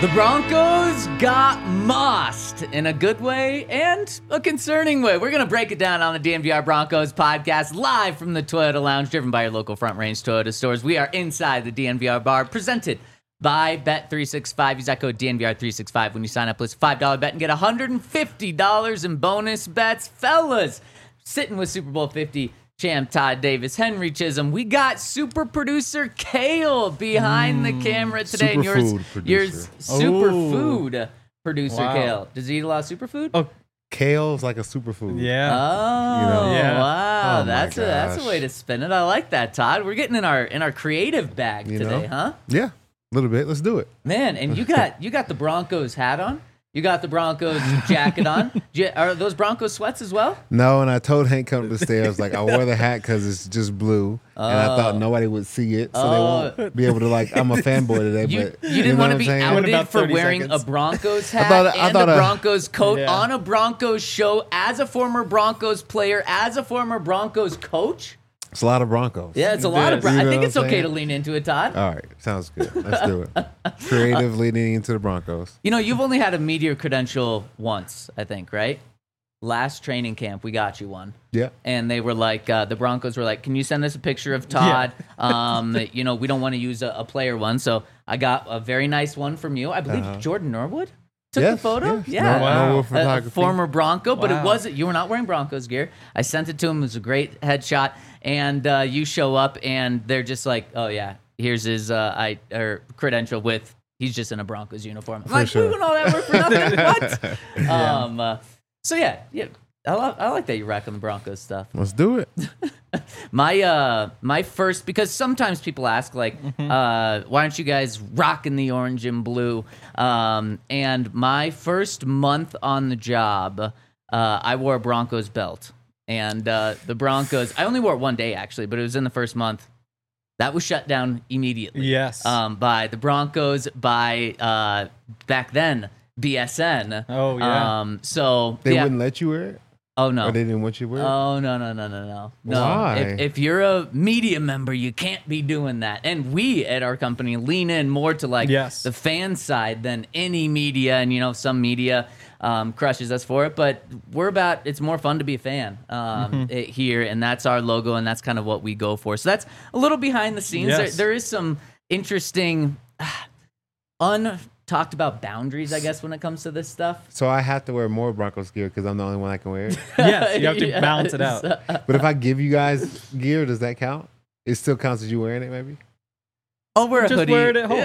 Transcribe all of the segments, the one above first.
The Broncos got mossed in a good way and a concerning way. We're going to break it down on the DNVR Broncos podcast live from the Toyota Lounge, driven by your local Front Range Toyota stores. We are inside the DNVR bar, presented by Bet365. Use that code DNVR365 when you sign up. List $5 bet and get $150 in bonus bets. Fellas, sitting with Super Bowl 50 champ Todd Davis, Henry Chisholm. We got super producer Kale behind the camera today. And yours superfood producer Kale. Does he eat a lot of superfood? Oh, kale's like a superfood. Yeah. Oh, You know? Yeah. wow. Oh, that's a way to spin it. I like that, Todd. We're getting in our creative bag today, huh? Yeah, a little bit. Let's do it. Man, and you got the Broncos hat on. You got the Broncos jacket on. Are those Broncos sweats as well? No, and I told Hank come up the stairs, like, I wore the hat because it's just blue, and I thought nobody would see it, so they won't be able to, like, I'm a fanboy today. You But didn't want to be saying? outed About for 30 wearing seconds. a Broncos hat I and thought a a- Broncos coat Yeah. on a Broncos show as a former Broncos player, as a former Broncos coach. It's a lot of Broncos. Yeah, it's a lot of. You I know think what it's I'm okay saying? to lean into it, Todd. All right, sounds good. Let's do it. Creative leading into the Broncos. You know, you've only had a media credential once, I think, right? Last training camp, we got you one. Yeah. And they were like, the Broncos were like, can you send us a picture of Todd? You know, we don't want to use a player one. So I got a very nice one from you. I believe Jordan Norwood took the photo. Yes. Yeah. Norwood A photography. former Bronco, but it Wow. wasn't, you were not wearing Broncos gear. I sent it to him. It was a great headshot. And you show up and they're just like, oh yeah, here's his credential with, he's just in a Broncos uniform. I'm like, sure. we went all that work for nothing. What? So yeah, I like that you're rocking the Broncos stuff. Let's do it. My first, because sometimes people ask like, why aren't you guys rocking the orange and blue? And my first month on the job, I wore a Broncos belt, and the Broncos. I only wore it one day actually, but it was in the first month. That was shut down immediately. Yes. By the Broncos, by back then BSN. Oh, yeah. So They yeah. wouldn't let you wear it? Oh no. Or they didn't want you to wear it? Oh no. Why? If you're a media member, you can't be doing that. And we at our company lean in more to like Yes. the fan side than any media. And you know, some media crushes us for it, but it's more fun to be a fan here, and that's our logo, and that's kind of what we go for. So that's a little behind the scenes. Yes. There is some interesting talked about boundaries, I guess, when it comes to this stuff. So I have to wear more Broncos gear because I'm the only one that can wear it. Yes, you have to balance it out. But if I give you guys gear, does that count? It still counts as you wearing it, maybe? I'll wear a Just hoodie. wear it at home.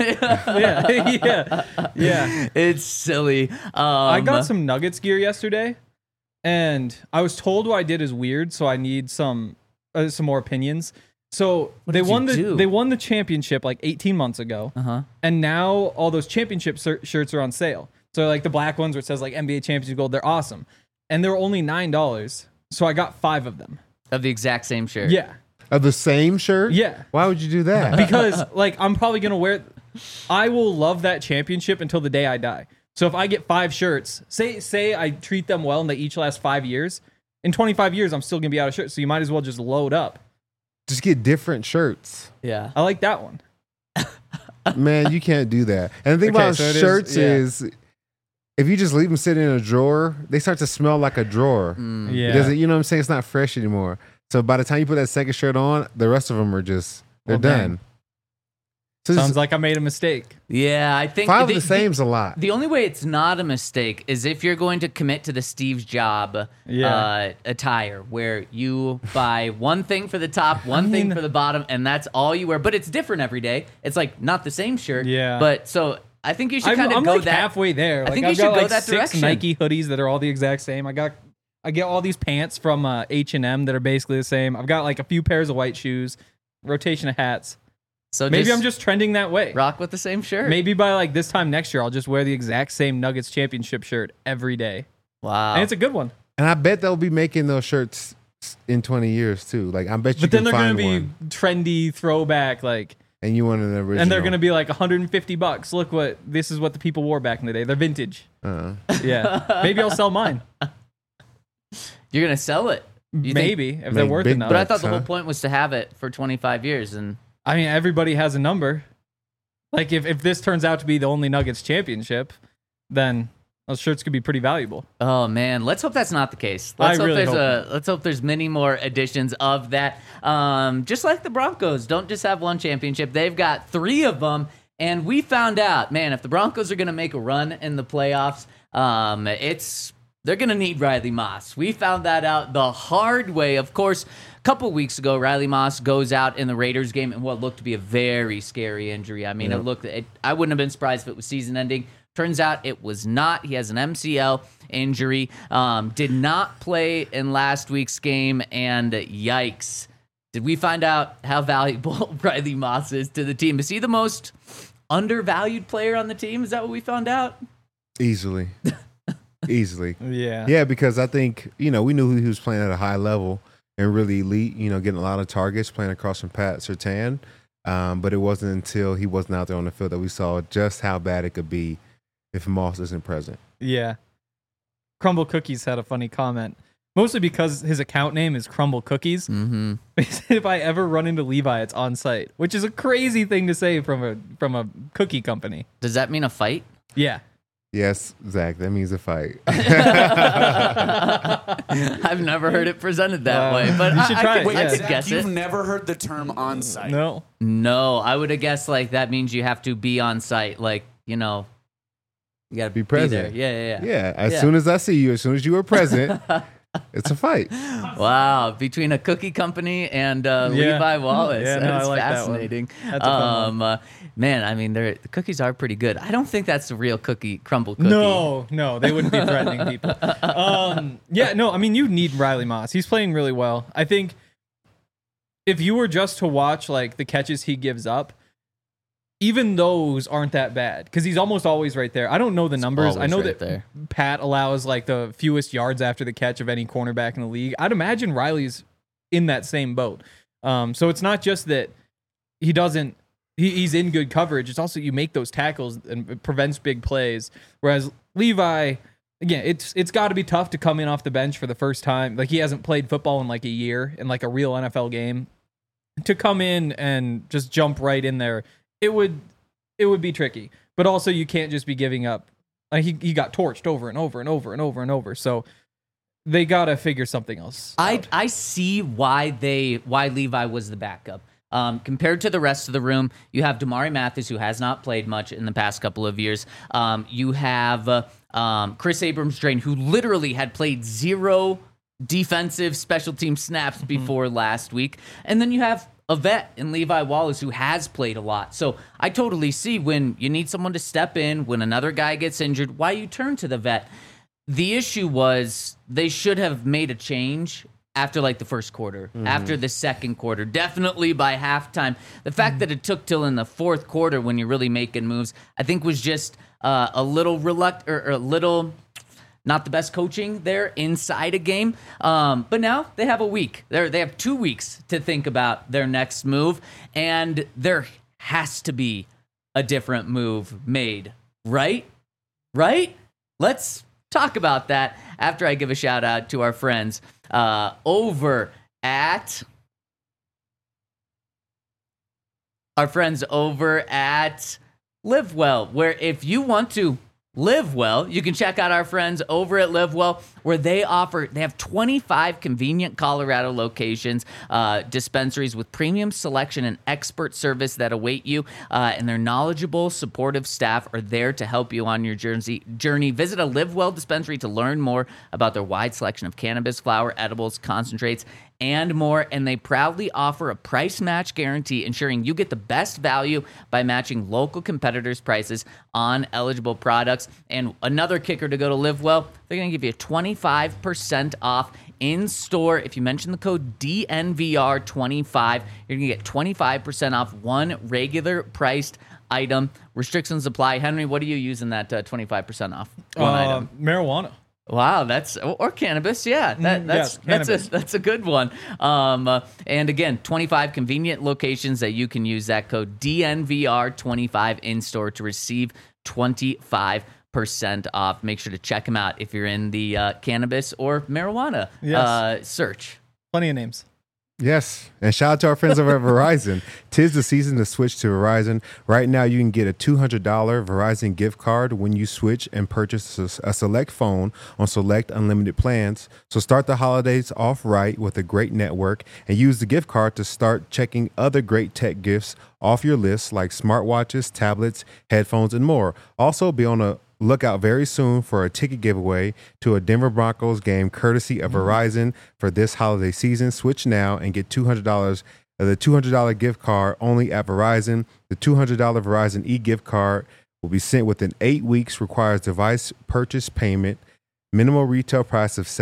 Yeah. Yeah. It's silly. I got some Nuggets gear yesterday, and I was told what I did is weird, so I need some more opinions. So they did you do? won the championship like 18 months ago, and now all those championship shirts are on sale. So like the black ones where it says like NBA Championship Gold, they're awesome, and they're only $9. So I got 5 of them. of the exact same shirt. Yeah, Of the same shirt? yeah. Why would you do that? Because like I'm probably gonna wear. I will love that championship until the day I die. So if I get 5 shirts, say I treat them well and they each last 5 years, in 25 years I'm still gonna be out of shirts. So you might as well just load up. Just get different shirts. Yeah. I like that one. Man, you can't do that. And the thing Okay, about so it is- shirts yeah. is if you just leave them sitting in a drawer, they start to smell like a drawer. Yeah. It doesn't, you know what I'm saying? It's not fresh anymore. So by the time you put that second shirt on, the rest of them are just, they're Well, dang. done. So Sounds just like I made a mistake. Yeah, I think 5 of the same's a lot. The only way it's not a mistake is if you're going to commit to the Steve's Job attire, where you buy one thing for the top, one thing for the bottom, and that's all you wear. But it's different every day. It's like not the same shirt. Yeah. But so I think you should kind of I'm go like that halfway there. I Like, think you I've should got go like that 6 direction. Nike hoodies that are all the exact same. I get all these pants from H&M that are basically the same. I've got like a few pairs of white shoes, rotation of hats. So Maybe I'm just trending that way. rock with the same shirt. Maybe by like this time next year, I'll just wear the exact same Nuggets championship shirt every day. Wow. And it's a good one. And I bet they'll be making those shirts in 20 years too. Like I bet you But then can they're going to find be one. trendy throwback, like, And you wanted an original. and they're going to be like $150. Look this is what the people wore back in the day. They're vintage. Yeah. Maybe I'll sell mine. You're gonna sell it. You think- Maybe if they're Make worth big enough. But I thought the Huh? whole point was to have it for 25 years, and I mean, everybody has a number. Like if this turns out to be the only Nuggets championship, then those shirts could be pretty valuable. Oh man, let's hope that's not the case. I really hope not. Let's hope there's many more editions of that. Just like the Broncos, don't just have one championship; they've got 3 of them. And we found out, man, if the Broncos are going to make a run in the playoffs, they're going to need Riley Moss. We found that out the hard way. Of course, a couple weeks ago, Riley Moss goes out in the Raiders game in what looked to be a very scary injury. I mean, I wouldn't have been surprised if it was season-ending. Turns out it was not. He has an MCL injury. Did not play in last week's game, and yikes. Did we find out how valuable Riley Moss is to the team? Is he the most undervalued player on the team? Is that what we found out? Easily. Yeah. Yeah, because I think, we knew he was playing at a high level and really elite, getting a lot of targets, playing across from Pat Surtain. But it wasn't until he wasn't out there on the field that we saw just how bad it could be if Moss isn't present. Yeah. Crumble Cookies had a funny comment, mostly because his account name is Crumble Cookies. Mm-hmm. If I ever run into Levi, it's on site, which is a crazy thing to say from a cookie company. Does that mean a fight? Yeah. Yes, Zach, that means a fight. I've never heard it presented that way, but you should try it. I could Zach, guess you've it. never heard the term on site. No. I would have guessed like that means you have to be on site, like you got to Be present. there. Yeah. Yeah, as soon as I see you, as soon as you are present, it's a fight. Wow, between a cookie company and Levi Wallace. Yeah, no, That's I like that one. fascinating. That's a fun one. Man, I mean, the cookies are pretty good. I don't think that's the real crumble cookie. No, they wouldn't be threatening people. I mean, you need Riley Moss. He's playing really well. I think if you were just to watch like the catches he gives up, even those aren't that bad because he's almost always right there. I don't know the numbers. I know that Pat allows like the fewest yards after the catch of any cornerback in the league. I'd imagine Riley's in that same boat. So it's not just that he doesn't. He's in good coverage. It's also you make those tackles and it prevents big plays. Whereas Levi, again, it's got to be tough to come in off the bench for the first time. Like he hasn't played football in like a year in like a real NFL game. To come in and just jump right in there, it would be tricky. But also you can't just be giving up. He got torched over and over and over and over and over. So they got to figure something else out. I see why Levi was the backup. Compared to the rest of the room, you have Damari Mathis, who has not played much in the past couple of years. You have Chris Abrams-Draine, who literally had played 0 defensive special team snaps before last week. And then you have a vet in Levi Wallace, who has played a lot. So I totally see when you need someone to step in, when another guy gets injured, why you turn to the vet. The issue was they should have made a change after like the first quarter, after the second quarter, definitely by halftime. The fact that it took till in the fourth quarter when you're really making moves, I think was just a little reluctant or a little not the best coaching there inside a game. But now they have a week. They have 2 weeks to think about their next move, and there has to be a different move made, right? Right? Let's talk about that after I give a shout out to our friends over at Live Well, where if you want to live well, you can check out our friends over at Live Well, where they have 25 convenient Colorado locations, dispensaries with premium selection and expert service that await you, and their knowledgeable, supportive staff are there to help you on your journey. Visit a Live Well dispensary to learn more about their wide selection of cannabis, flower, edibles, concentrates, and more, and they proudly offer a price match guarantee, ensuring you get the best value by matching local competitors' prices on eligible products. And another kicker to go to Live Well, they're going to give you 25% off in store. If you mention the code DNVR25, you're going to get 25% off one regular priced item. Restrictions apply. Henry, what are you using that 25% off one item? Marijuana. Wow, that's or cannabis, yeah. That's a good one. And again, 25 convenient locations that you can use that code DNVR25 in store to receive 25% off. Make sure to check them out if you're in the cannabis or marijuana search. Plenty of names. Yes, and shout out to our friends over at Verizon. Tis the season to switch to Verizon. Right now, you can get a $200 Verizon gift card when you switch and purchase a select phone on select unlimited plans. So start the holidays off right with a great network and use the gift card to start checking other great tech gifts off your list like smartwatches, tablets, headphones, and more. Also, be on a lookout very soon for a ticket giveaway to a Denver Broncos game courtesy of Verizon for this holiday season. Switch now and get $200, the $200 gift card only at Verizon. The $200 Verizon e-gift card will be sent within 8 weeks, requires device purchase payment, minimal retail price of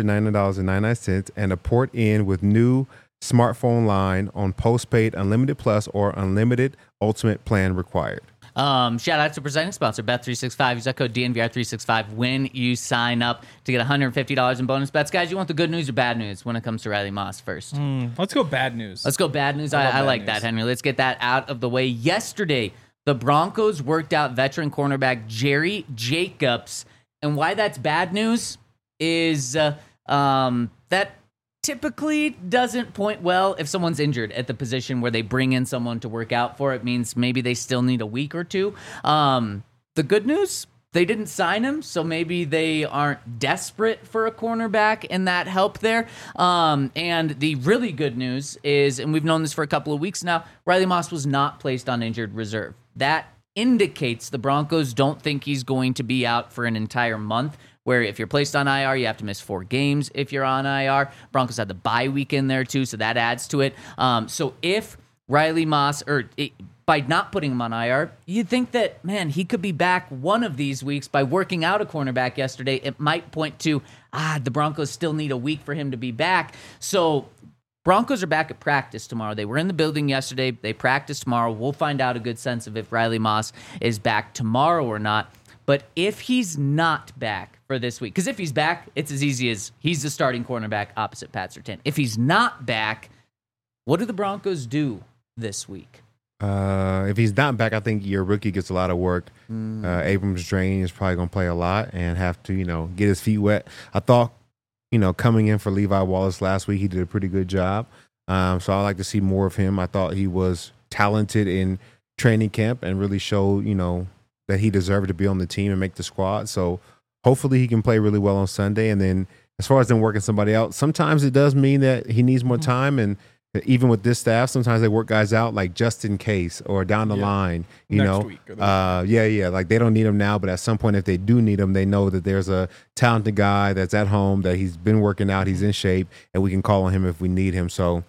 $790.99, and a port in with new smartphone line on postpaid Unlimited Plus or Unlimited Ultimate plan required. Shout out to presenting sponsor Bet365. Use that code DNVR365 when you sign up to get $150 in bonus bets. Guys, you want the good news or bad news when it comes to Riley Moss first? Let's go bad news. Let's go bad news. I bad like news. that, Henry. Let's get that out of the way. Yesterday, the Broncos worked out veteran cornerback Jerry Jacobs. And why that's bad news is that typically doesn't point well if someone's injured at the position where they bring in someone to work out for. It means maybe they still need a week or two. The good news, they didn't sign him, so maybe they aren't desperate for a cornerback, and that helped there. And the really good news is, and we've known this for a couple of weeks now, Riley Moss was not placed on injured reserve. That indicates the Broncos don't think he's going to be out for an entire month, where if you're placed on IR, you have to miss 4 games if you're on IR. Broncos had the bye week in there too, so that adds to it. So if Riley Moss, by not putting him on IR, you'd think that, man, he could be back one of these weeks. By working out a cornerback yesterday, it might point to, the Broncos still need a week for him to be back. So Broncos are back at practice tomorrow. They were in the building yesterday. They practice tomorrow. We'll find out a good sense of if Riley Moss is back tomorrow or not. But if he's not back for this week, because if he's back, it's as easy as he's the starting cornerback opposite Pat Surtain. If he's not back, what do the Broncos do this week? If he's not back, I think your rookie gets a lot of work. Abrams Drain is probably going to play a lot and have to, get his feet wet. I thought, coming in for Levi Wallace last week, he did a pretty good job. So I like to see more of him. I thought he was talented in training camp and really showed, that he deserved to be on the team and make the squad. So hopefully he can play really well on Sunday. And then as far as them working somebody out, sometimes it does mean that he needs more time. And even with this staff, sometimes they work guys out like just in case or down the line, Next week or the yeah. Like they don't need him now, but at some point, if they do need him, they know that there's a talented guy that's at home, that he's been working out, he's in shape, and we can call on him if we need him. So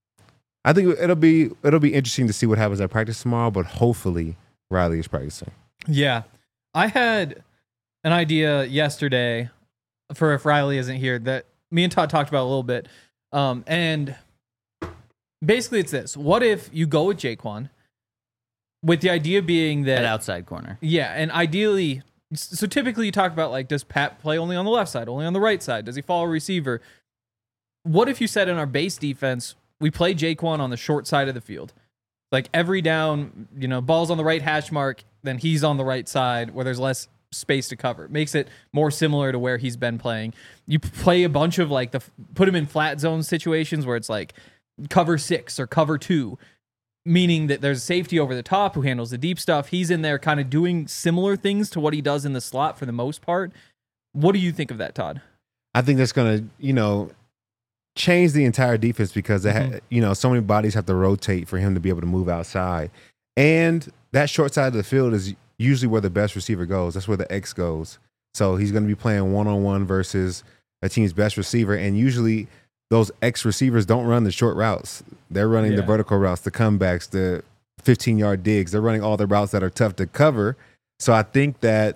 I think it'll be interesting to see what happens at practice tomorrow, but hopefully Riley is practicing. Yeah. I had an idea yesterday for if Riley isn't here that me and Todd talked about a little bit. And basically it's this. What if you go with Jaquan with the idea being that... At outside corner. Yeah, and ideally... So typically you talk about, like, does Pat play only on the left side, only on the right side? Does he follow a receiver? What if you said in our base defense, we play Jaquan on the short side of the field? Like every down, ball's on the right hash mark, then he's on the right side where there's less space to cover. It makes it more similar to where he's been playing. You play a bunch of put him in flat zone situations where it's like cover 6 or cover 2, meaning that there's safety over the top who handles the deep stuff. He's in there kind of doing similar things to what he does in the slot for the most part. What do you think of that, Todd? I think that's going to, change the entire defense because they so many bodies have to rotate for him to be able to move outside. And that short side of the field is usually where the best receiver goes. That's where the X goes. So he's going to be playing one-on-one versus a team's best receiver. And usually those X receivers don't run the short routes. They're running the vertical routes, the comebacks, the 15-yard digs. They're running all the routes that are tough to cover. So I think that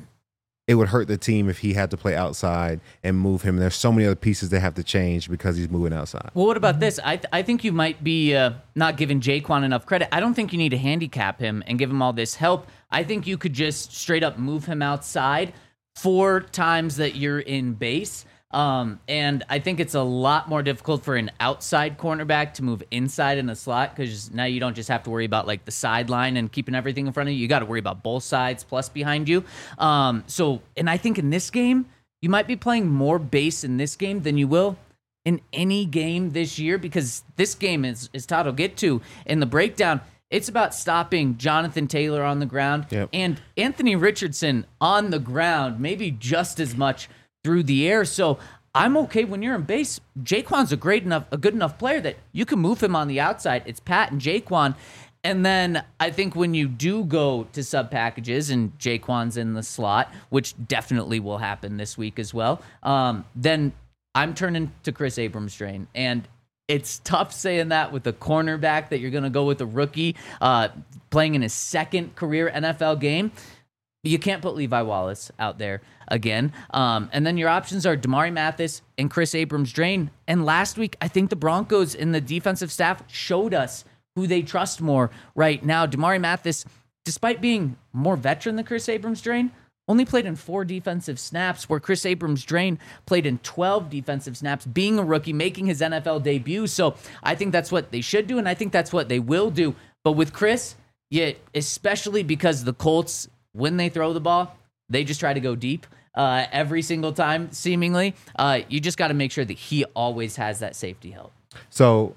it would hurt the team if he had to play outside and move him. There's so many other pieces they have to change because he's moving outside. Well, what about this? I think you might be not giving Jaquan enough credit. I don't think you need to handicap him and give him all this help. I think you could just straight up move him outside 4 times that you're in base. And I think it's a lot more difficult for an outside cornerback to move inside in the slot because now you don't just have to worry about like the sideline and keeping everything in front of you. You got to worry about both sides plus behind you. And I think in this game, you might be playing more base in this game than you will in any game this year, because this game is Todd will get to in the breakdown. It's about stopping Jonathan Taylor on the ground and Anthony Richardson on the ground, maybe just as much through the air. So I'm okay when you're in base. Jaquan's a good enough player that you can move him on the outside. It's Pat and Jaquan. And then I think when you do go to sub packages and Jaquan's in the slot, which definitely will happen this week as well, then I'm turning to Chris Abrams-Draine. And it's tough saying that with a cornerback that you're going to go with a rookie playing in his second career NFL game. You can't put Levi Wallace out there again. And then your options are Damari Mathis and Chris Abrams-Draine. And last week, I think the Broncos and the defensive staff showed us who they trust more right now. Damari Mathis, despite being more veteran than Chris Abrams-Draine, only played in 4 defensive snaps, where Chris Abrams-Draine played in 12 defensive snaps, being a rookie, making his NFL debut. So I think that's what they should do, and I think that's what they will do. But with Chris, especially because the Colts, when they throw the ball, they just try to go deep every single time, seemingly. You just got to make sure that he always has that safety help. So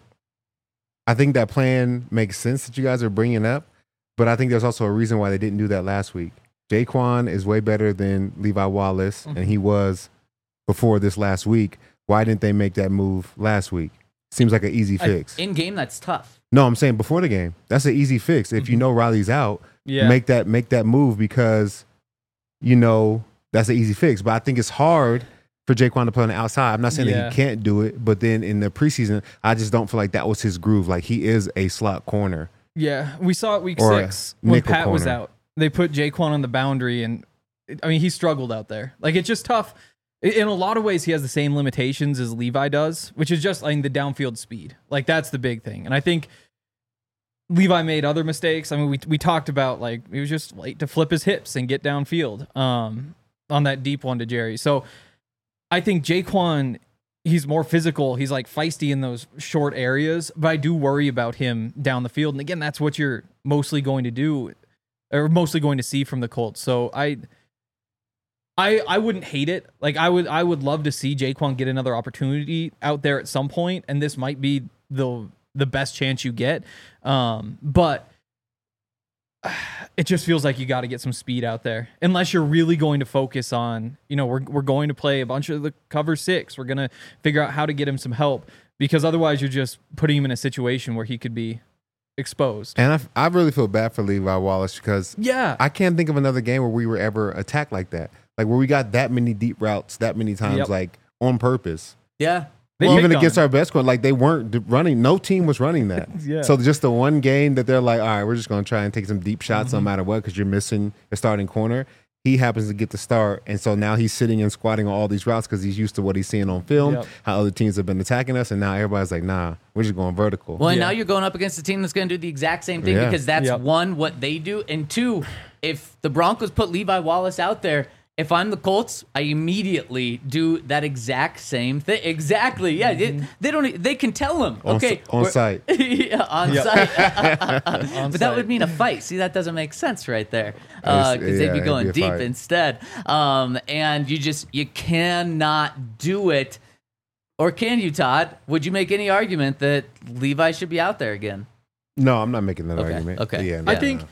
I think that plan makes sense that you guys are bringing up, but I think there's also a reason why they didn't do that last week. Jaquan is way better than Levi Wallace, and he was before this last week. Why didn't they make that move last week? Seems like an easy fix. In game, that's tough. No, I'm saying before the game. That's an easy fix. If you know Riley's out, make that move, because you know that's an easy fix. But I think it's hard for Jaquan to play on the outside. I'm not saying that he can't do it, but then in the preseason, I just don't feel like that was his groove. Like, he is a slot corner. Yeah, we saw it week 6 when Pat was out. They put Jaquan on the boundary, and I mean, he struggled out there. Like, it's just tough. In a lot of ways, he has the same limitations as Levi does, which is just, I mean, the downfield speed. Like, that's the big thing. And I think Levi made other mistakes. I mean, we talked about, like, he was just late to flip his hips and get downfield on that deep one to Jerry. So I think Jaquan, he's more physical. He's like feisty in those short areas, but I do worry about him down the field. And again, that's what you're mostly going to do, or mostly going to see from the Colts. So I wouldn't hate it. Like, I would love to see Jaquan get another opportunity out there at some point, and this might be the best chance you get. But it just feels like you got to get some speed out there, unless you're really going to focus on, you know, we're going to play a bunch of the cover 6. We're going to figure out how to get him some help, because otherwise you're just putting him in a situation where he could be exposed. And I really feel bad for Levi Wallace, because I can't think of another game where we were ever attacked like that. Like, where we got that many deep routes that many times, like, on purpose. Yeah. Even against our best corner, like, they weren't running. No team was running that. So just the one game that they're like, all right, we're just going to try and take some deep shots no matter what, because you're missing a starting corner. He happens to get the start, and so now he's sitting and squatting on all these routes because he's used to what he's seeing on film, how other teams have been attacking us, and now everybody's like, nah, we're just going vertical. Well, and now you're going up against a team that's going to do the exact same thing, because that's one, what they do, and two, if the Broncos put Levi Wallace out there, if I'm the Colts, I immediately do that exact same thing. Exactly. Yeah. They can tell him. Okay. On site. On site. But that would mean a fight. See, that doesn't make sense right there. Because they'd be going deep instead. And you cannot do it. Or can you, Todd? Would you make any argument that Levi should be out there again? No, I'm not making that argument. Okay. Yeah,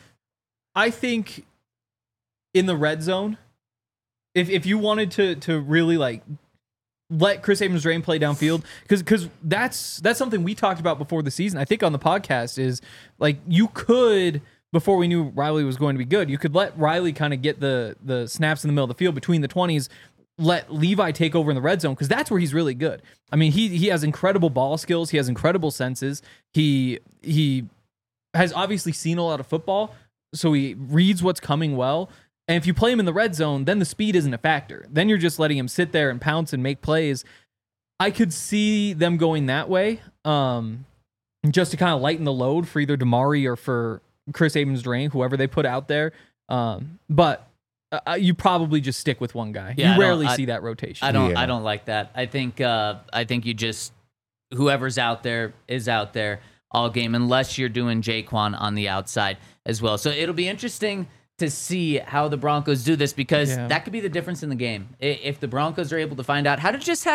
I think in the red zone, if you wanted to really, like, let Chris Abrams-Draine play downfield, because that's something we talked about before the season, I think, on the podcast, is, like, you could, before we knew Riley was going to be good, you could let Riley kind of get the snaps in the middle of the field between the 20s, let Levi take over in the red zone, because that's where he's really good. I mean, he has incredible ball skills. He has incredible senses. He has obviously seen a lot of football, so he reads what's coming well. And if you play him in the red zone, then the speed isn't a factor. Then you're just letting him sit there and pounce and make plays. I could see them going that way, just to kind of lighten the load for either Damari or for Chris Abrams-Draine, whoever they put out there. But you probably just stick with one guy. Yeah, you rarely see that rotation. I don't like that. I think you just, whoever's out there is out there all game, unless you're doing Jaquan on the outside as well. So it'll be interesting to see how the Broncos do this, because that could be the difference in the game. If the Broncos are able to find out how to just have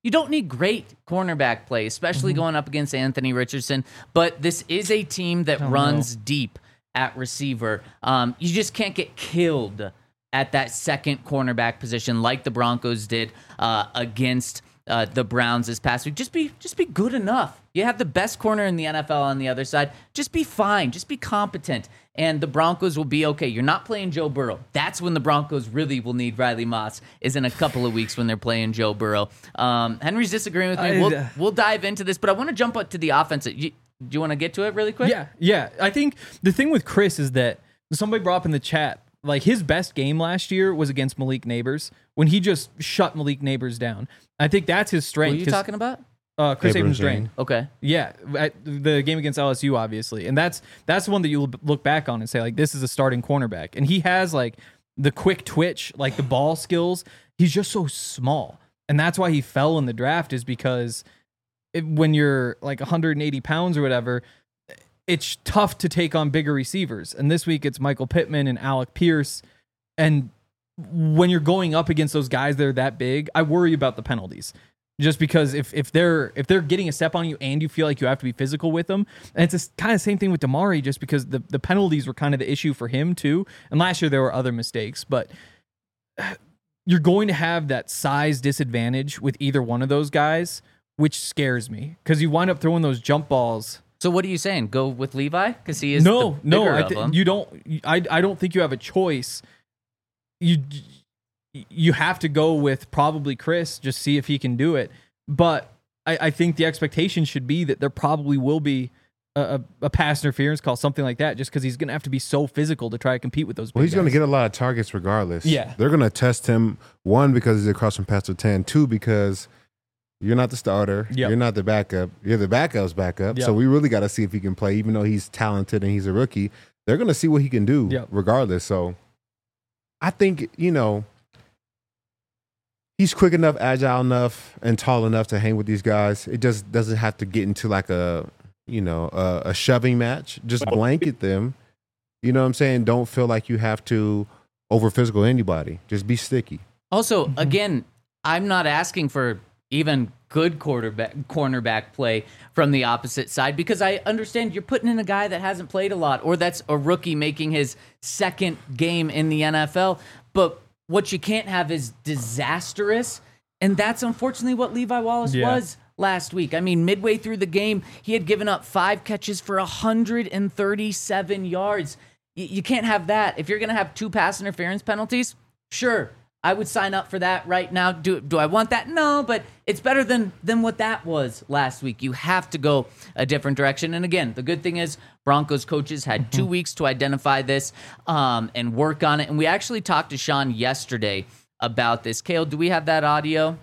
You don't need great cornerback play, especially going up against Anthony Richardson. But this is a team that runs deep at receiver. You just can't get killed at that second cornerback position like the Broncos did against the Browns this past week. Just be good enough. You have the best corner in the NFL on the other side. Just be fine. Just be competent. And the Broncos will be okay. You're not playing Joe Burrow. That's when the Broncos really will need Riley Moss, is in a couple of weeks when they're playing Joe Burrow. Henry's disagreeing with me. We'll dive into this, but I want to jump up to the offense. Do you want to get to it really quick? Yeah. I think the thing with Chris is that somebody brought up in the chat, like his best game last year was against Malik Neighbors when he just shut Malik Neighbors down. I think that's his strength. What are you talking about? Chris Abrams-Drain. Okay. Yeah, at the game against LSU, obviously. And that's the one that you look back on and say, like, this is a starting cornerback. And he has, like, the quick twitch, like, the ball skills. He's just so small. And that's why he fell in the draft, is because when you're, like, 180 pounds or whatever, it's tough to take on bigger receivers. And this week it's Michael Pittman and Alec Pierce. And when you're going up against those guys that are that big, I worry about the penalties. Just because if they're getting a step on you and you feel like you have to be physical with them, and it's kind of the same thing with Damari, just because the penalties were kind of the issue for him too. And last year there were other mistakes, but you're going to have that size disadvantage with either one of those guys, which scares me because you wind up throwing those jump balls. So what are you saying? Go with Levi because he is the bigger of them. You don't. I don't think you have a choice. You have to go with probably Chris, just see if he can do it. But I think the expectation should be that there probably will be a pass interference call, something like that, just because he's going to have to be so physical to try to compete with those big he's going to guys. get a lot of targets regardless. Yeah. They're going to test him, one, because he's across from Pastor 10, two, because you're not the starter. Yep. You're not the backup. You're the backup's backup. Yep. So we really got to see if he can play, even though he's talented and he's a rookie. They're going to see what he can do regardless. So I think, he's quick enough, agile enough, and tall enough to hang with these guys. It just doesn't have to get into like a shoving match. Just blanket them. You know what I'm saying? Don't feel like you have to over physical anybody. Just be sticky. Also, again, I'm not asking for even good cornerback play from the opposite side, because I understand you're putting in a guy that hasn't played a lot, or that's a rookie making his second game in the NFL. But what you can't have is disastrous, and that's unfortunately what Levi Wallace was last week. I mean, midway through the game, he had given up 5 catches for 137 yards. You can't have that. If you're going to have 2 pass interference penalties, sure, I would sign up for that right now. Do I want that? No, but it's better than what that was last week. You have to go a different direction. And again, the good thing is Broncos coaches had 2 weeks to identify this and work on it. And we actually talked to Sean yesterday about this. Cale, do we have that audio?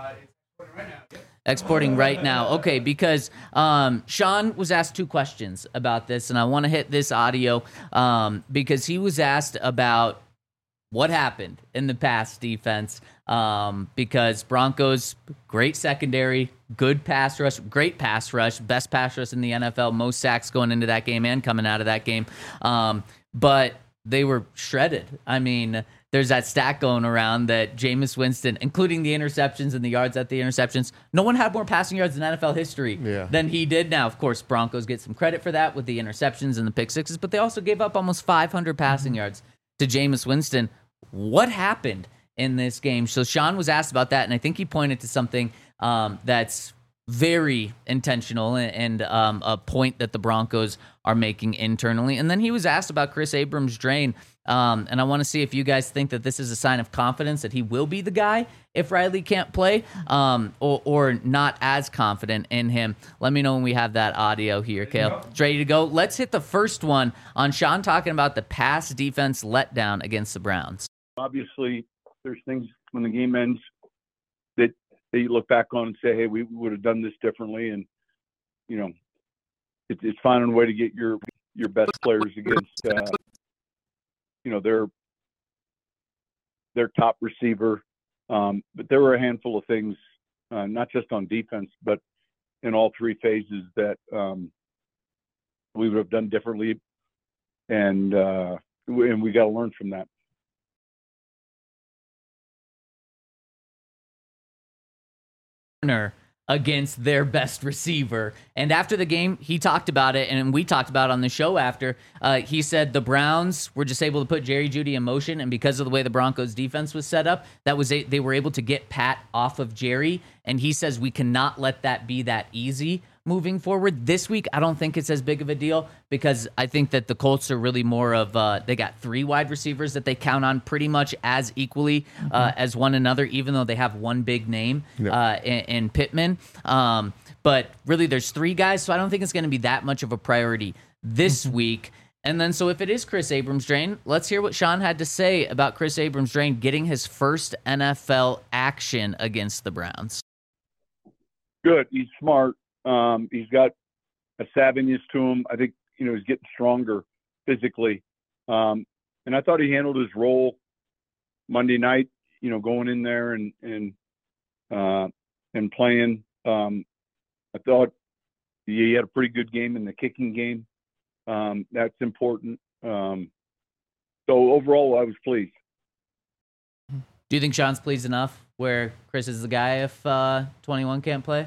Exporting right now. Okay, because Sean was asked 2 questions about this, and I want to hit this audio because he was asked about what happened in the pass defense, because Broncos, great secondary, good pass rush, great pass rush, best pass rush in the NFL, most sacks going into that game and coming out of that game. But they were shredded. I mean, there's that stat going around that Jameis Winston, including the interceptions and the yards at the interceptions, no one had more passing yards in NFL history than he did. Now, of course, Broncos get some credit for that with the interceptions and the pick sixes, but they also gave up almost 500 passing yards to Jameis Winston. What happened in this game? So Sean was asked about that, and I think he pointed to something that's very intentional and a point that the Broncos are making internally. And then he was asked about Chris Abrams-Drain, and I want to see if you guys think that this is a sign of confidence that he will be the guy if Riley can't play, or not as confident in him. Let me know when we have that audio here, Cale. It's ready to go. Let's hit the first one on Sean talking about the pass defense letdown against the Browns. Obviously, there's things when the game ends that you look back on and say, hey, we would have done this differently. And, it's finding a way to get your best players against, their top receiver. But there were a handful of things, not just on defense, but in all 3 phases that we would have done differently. And we got to learn from that. against their best receiver. And after the game, he talked about it, and we talked about it on the show after. He said the Browns were just able to put Jerry Jeudy in motion, and because of the way the Broncos defense was set up, they were able to get Pat off of Jerry. And he says we cannot let that be that easy moving forward. This week, I don't think it's as big of a deal because I think that the Colts are really more of they got 3 wide receivers that they count on pretty much as equally as one another, even though they have one big name in Pittman. But really, there's 3 guys, so I don't think it's going to be that much of a priority this week. And then, so if it is Chris Abrams-Draine, let's hear what Sean had to say about Chris Abrams-Draine getting his first NFL action against the Browns. Good. He's smart. He's got a savviness to him. I think, he's getting stronger physically. And I thought he handled his role Monday night, going in there and playing. I thought he had a pretty good game in the kicking game. That's important. So overall, I was pleased. Do you think Sean's pleased enough where Chris is the guy if 21 can't play?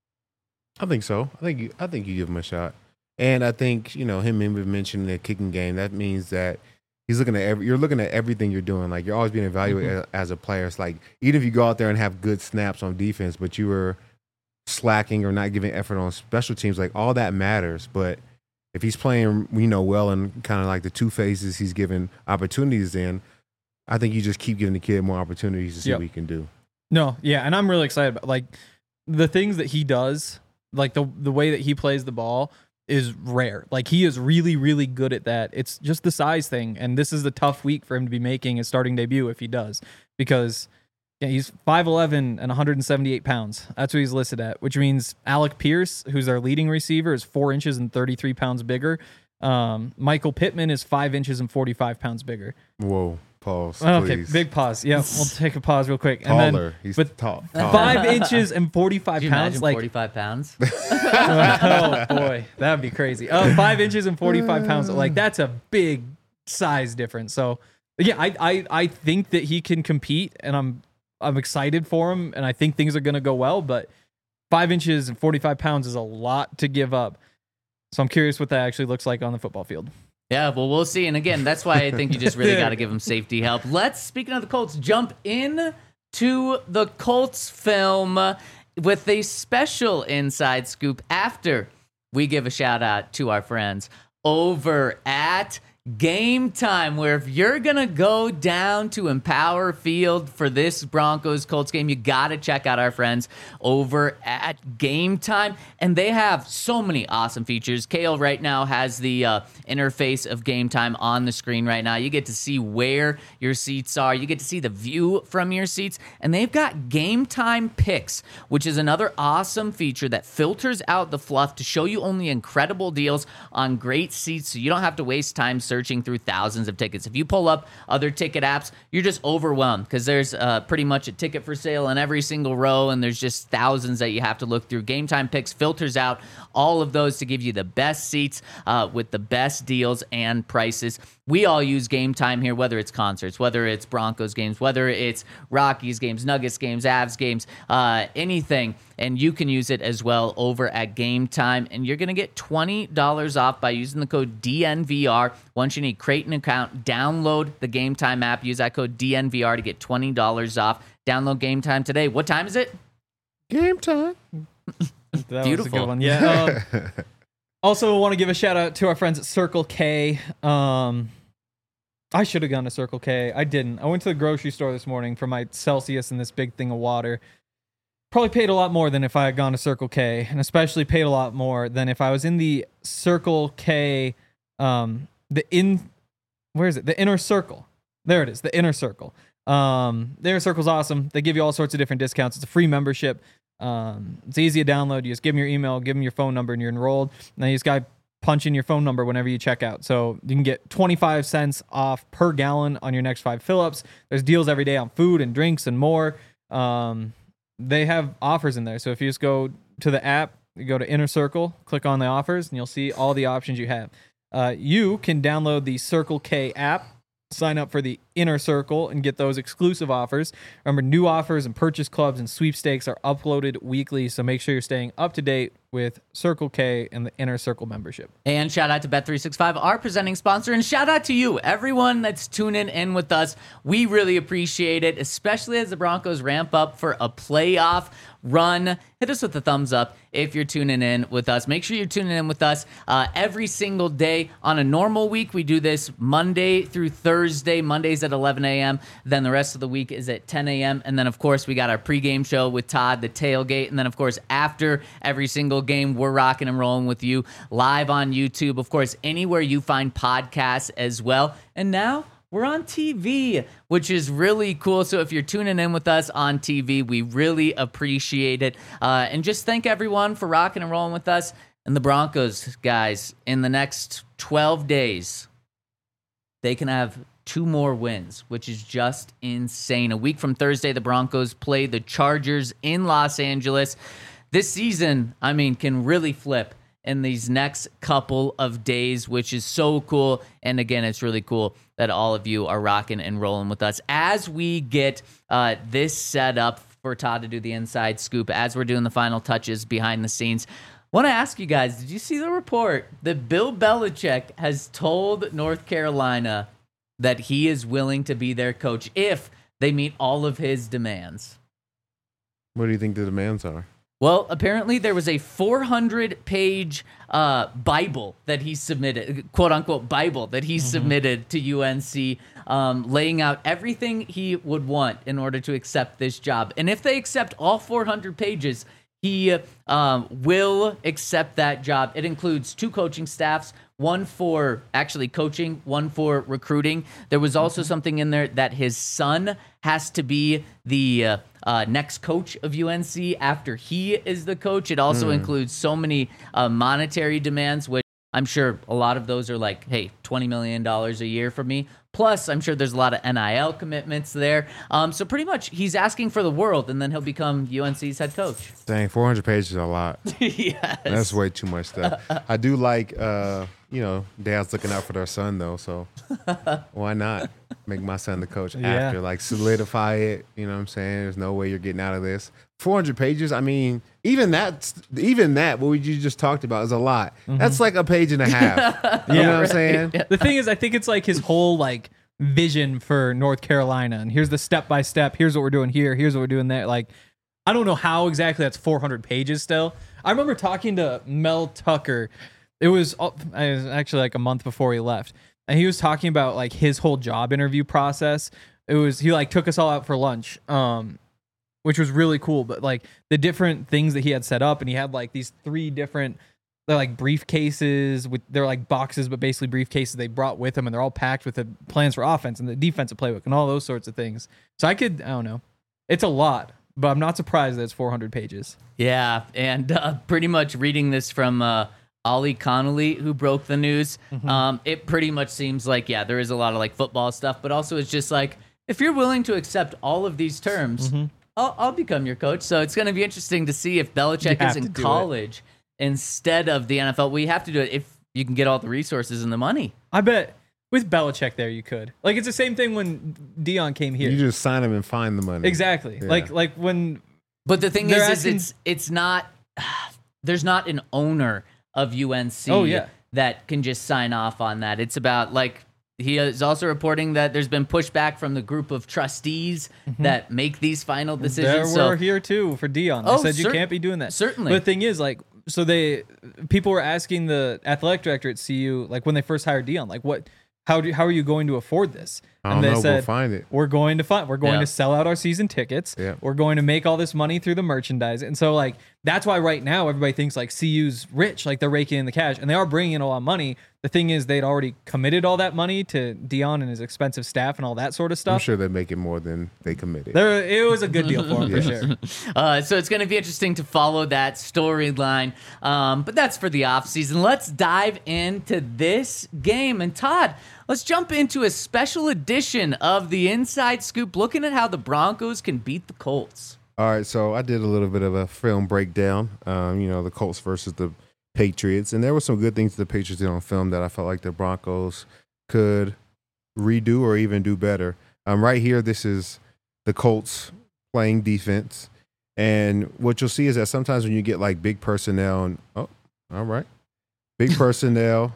I think so. I think you give him a shot. And I think, him even mentioning the kicking game, that means that he's looking at you're looking at everything you're doing. Like, you're always being evaluated as a player. It's like, even if you go out there and have good snaps on defense, but you were slacking or not giving effort on special teams, like, all that matters. But if he's playing, well, and kind of like the 2 phases he's given opportunities in, I think you just keep giving the kid more opportunities to see what he can do. No, yeah, and I'm really excited about, like, the things that he does, like the way that he plays the ball is rare. Like, he is really, really good at that. It's just the size thing, and this is a tough week for him to be making his starting debut if he does, because he's 5'11" and 178 pounds. That's what he's listed at, which means Alec Pierce, who's our leading receiver, is 4 inches and 33 pounds bigger. Michael Pittman is 5 inches and 45 pounds bigger. Whoa. Pause, okay, please. big pause. Yeah, we'll take a pause real quick. Taller. And then, he's tall. 5 inches and 45 Could you pounds. imagine Like 45 pounds? Oh boy, that'd be crazy. 5 inches and 45 pounds. Like, that's a big size difference. So yeah, I think that he can compete, and I'm excited for him, and I think things are gonna go well. But 5 inches and 45 pounds is a lot to give up. So I'm curious what that actually looks like on the football field. Yeah, well, we'll see. And again, that's why I think you just really got to give him safety help. Let's, speaking of the Colts, jump in to the Colts film with a special inside scoop after we give a shout out to our friends over at Game Time, where if you're going to go down to Empower Field for this Broncos-Colts game, you got to check out our friends over at Game Time. And they have so many awesome features. Kale right now has the interface of Game Time on the screen right now. You get to see where your seats are. You get to see the view from your seats. And they've got Game Time Picks, which is another awesome feature that filters out the fluff to show you only incredible deals on great seats, so you don't have to waste time searching through thousands of tickets. If you pull up other ticket apps, you're just overwhelmed because there's pretty much a ticket for sale in every single row, and there's just thousands that you have to look through. Game Time Picks filters out all of those to give you the best seats with the best deals and prices. We all use Game Time here, whether it's concerts, whether it's Broncos games, whether it's Rockies games, Nuggets games, Avs games, anything. And you can use it as well over at Game Time. And you're going to get $20 off by using the code DNVR. Once you need, create an account, download the Game Time app, use that code DNVR to get $20 off. Download Game Time today. What time is it? Game time. That Beautiful. was a good one. Yeah. Also, want to give a shout out to our friends at Circle K. I should have gone to Circle K. I didn't. I went to the grocery store this morning for my Celsius and this big thing of water. Probably paid a lot more than if I had gone to Circle K, and especially paid a lot more than if I was in the Circle K, where is it? The Inner Circle. There it is, the Inner Circle. The Inner Circle's awesome. They give you all sorts of different discounts. It's a free membership. It's easy to download. You just give them your email, give them your phone number, and you're enrolled. And then you just got to punch in your phone number whenever you check out. So you can get 25 cents off per gallon on your next 5 fill-ups. There's deals every day on food and drinks and more. They have offers in there. So if you just go to the app, you go to Inner Circle, click on the offers, and you'll see all the options you have. You can download the Circle K app, sign up for the Inner Circle and get those exclusive offers. Remember, new offers and purchase clubs and sweepstakes are uploaded weekly, so make sure you're staying up to date with Circle K and the Inner Circle membership. And shout out to Bet365, our presenting sponsor, and shout out to you, everyone that's tuning in with us. We really appreciate it, especially as the Broncos ramp up for a playoff run. Hit us with a thumbs up if you're tuning in with us. Make sure you're tuning in with us every single day. On a normal week, we do this Monday through Thursday. Mondays at 11 a.m. Then the rest of the week is at 10 a.m. And then, of course, we got our pregame show with Todd, the tailgate. And then, of course, after every single game, we're rocking and rolling with you live on YouTube. Of course, anywhere you find podcasts as well. And now we're on TV, which is really cool. So if you're tuning in with us on TV, we really appreciate it. And just thank everyone for rocking and rolling with us. And the Broncos, guys, in the next 12 days, they can have 2 more wins, which is just insane. A week from Thursday, the Broncos play the Chargers in Los Angeles. This season, I mean, can really flip in these next couple of days, which is so cool. And again, it's really cool that all of you are rocking and rolling with us as we get this set up for Todd to do the inside scoop, as we're doing the final touches behind the scenes. Want to ask you guys, did you see the report that Bill Belichick has told North Carolina that he is willing to be their coach if they meet all of his demands? What do you think the demands are? Well, apparently there was a 400-page Bible that he submitted, quote-unquote Bible, that he submitted to UNC, laying out everything he would want in order to accept this job. And if they accept all 400 pages, he will accept that job. It includes 2 coaching staffs, one for actually coaching, one for recruiting. There was also something in there that his son has to be the next coach of UNC after he is the coach. It also includes so many monetary demands, which I'm sure a lot of those are like, hey, $20 million a year for me. Plus, I'm sure there's a lot of NIL commitments there. So pretty much he's asking for the world, and then he'll become UNC's head coach. Dang, 400 pages is a lot. Yes. That's way too much stuff. I do like, dad's looking out for their son, though, so why not make my son the coach after? Like, solidify it, you know what I'm saying? There's no way you're getting out of this. 400 pages, I mean, even that, what we just talked about is a lot. That's like a page and a half. You know what I'm saying? The thing is, I think it's like his whole like vision for North Carolina, and here's the step by step. Here's what we're doing here. Here's what we're doing there. Like, I don't know how exactly that's 400 pages still. I remember talking to Mel Tucker. It was actually like a month before he left, and he was talking about like his whole job interview process. He like took us all out for lunch, which was really cool. But like the different things that he had set up, and he had like these 3 different, they're like briefcases they're like boxes, but basically briefcases they brought with him, and they're all packed with the plans for offense and the defensive playbook and all those sorts of things. So I don't know, it's a lot, but I'm not surprised that it's 400 pages. Yeah, and pretty much reading this from Ollie Connolly, who broke the news, it pretty much seems like, yeah, there is a lot of like football stuff, but also it's just like, if you're willing to accept all of these terms, I'll become your coach. So it's going to be interesting to see if Belichick is in college instead of the NFL. We have to do it if you can get all the resources and the money. I bet with Belichick there you could. Like, it's the same thing when Dion came here. You just sign him and find the money. Exactly. Yeah. Like when. But the thing is it's not. There's not an owner of UNC that can just sign off on that. It's about, like, he is also reporting that there's been pushback from the group of trustees that make these final decisions. There were here too for Dion. They said you can't be doing that. Certainly. But the thing is, like, so people were asking the athletic director at CU, like when they first hired Dion, like how are you going to afford this? And they said, we'll find it. We're going to sell out our season tickets. Yeah. We're going to make all this money through the merchandise. And so, like, that's why right now everybody thinks like CU's rich, like they're raking in the cash, and they are bringing in a lot of money. The thing is, they'd already committed all that money to Dion and his expensive staff and all that sort of stuff. I'm sure they're making more than they committed. It was a good deal for him, for sure. So it's going to be interesting to follow that storyline. But that's for the offseason. Let's dive into this game. And Todd, let's jump into a special edition of the Inside Scoop, looking at how the Broncos can beat the Colts. All right, so I did a little bit of a film breakdown, the Colts versus the Patriots, and there were some good things the Patriots did on film that I felt like the Broncos could redo or even do better. Right here, this is the Colts playing defense. And what you'll see is that sometimes when you get like big personnel, and all right, big personnel.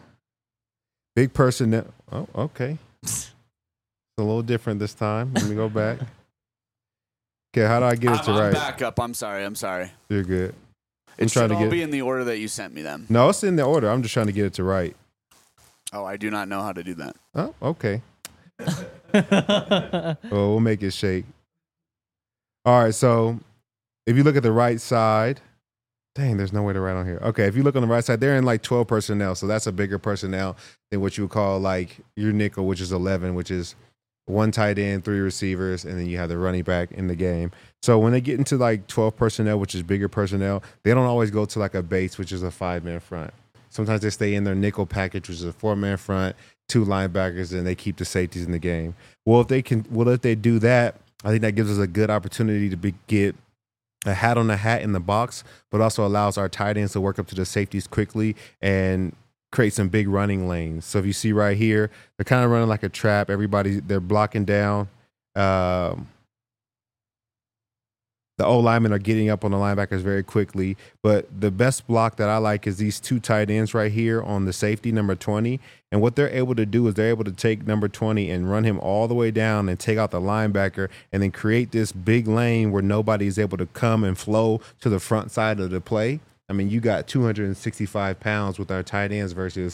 Oh, okay. It's a little different this time. Let me go back. Okay, how do I get it to I'm right? back up. I'm sorry. You're good. It trying should to all get- be in the order that you sent me them. No, it's in the order. I'm just trying to get it to right. Oh, I do not know how to do that. Oh, okay. Well, we'll make it shake. All right, so if you look at the right side, dang, there's no way to write on here. Okay, if you look on the right side, they're in like 12 personnel, so that's a bigger personnel than what you would call like your nickel, which is 11, which is one tight end, 3 receivers, and then you have the running back in the game. So when they get into like 12 personnel, which is bigger personnel, they don't always go to like a base, which is a 5-man front. Sometimes they stay in their nickel package, which is a 4-man front, 2 linebackers, and they keep the safeties in the game. Well, if they do that, I think that gives us a good opportunity to get a hat on the hat in the box, but also allows our tight ends to work up to the safeties quickly and create some big running lanes. So if you see right here, they're kind of running like a trap. They're blocking down. The O-linemen are getting up on the linebackers very quickly. But the best block that I like is these 2 tight ends right here on the safety, number 20. And what they're able to do is they're able to take number 20 and run him all the way down and take out the linebacker and then create this big lane where nobody's able to come and flow to the front side of the play. I mean, you got 265 pounds with our tight ends versus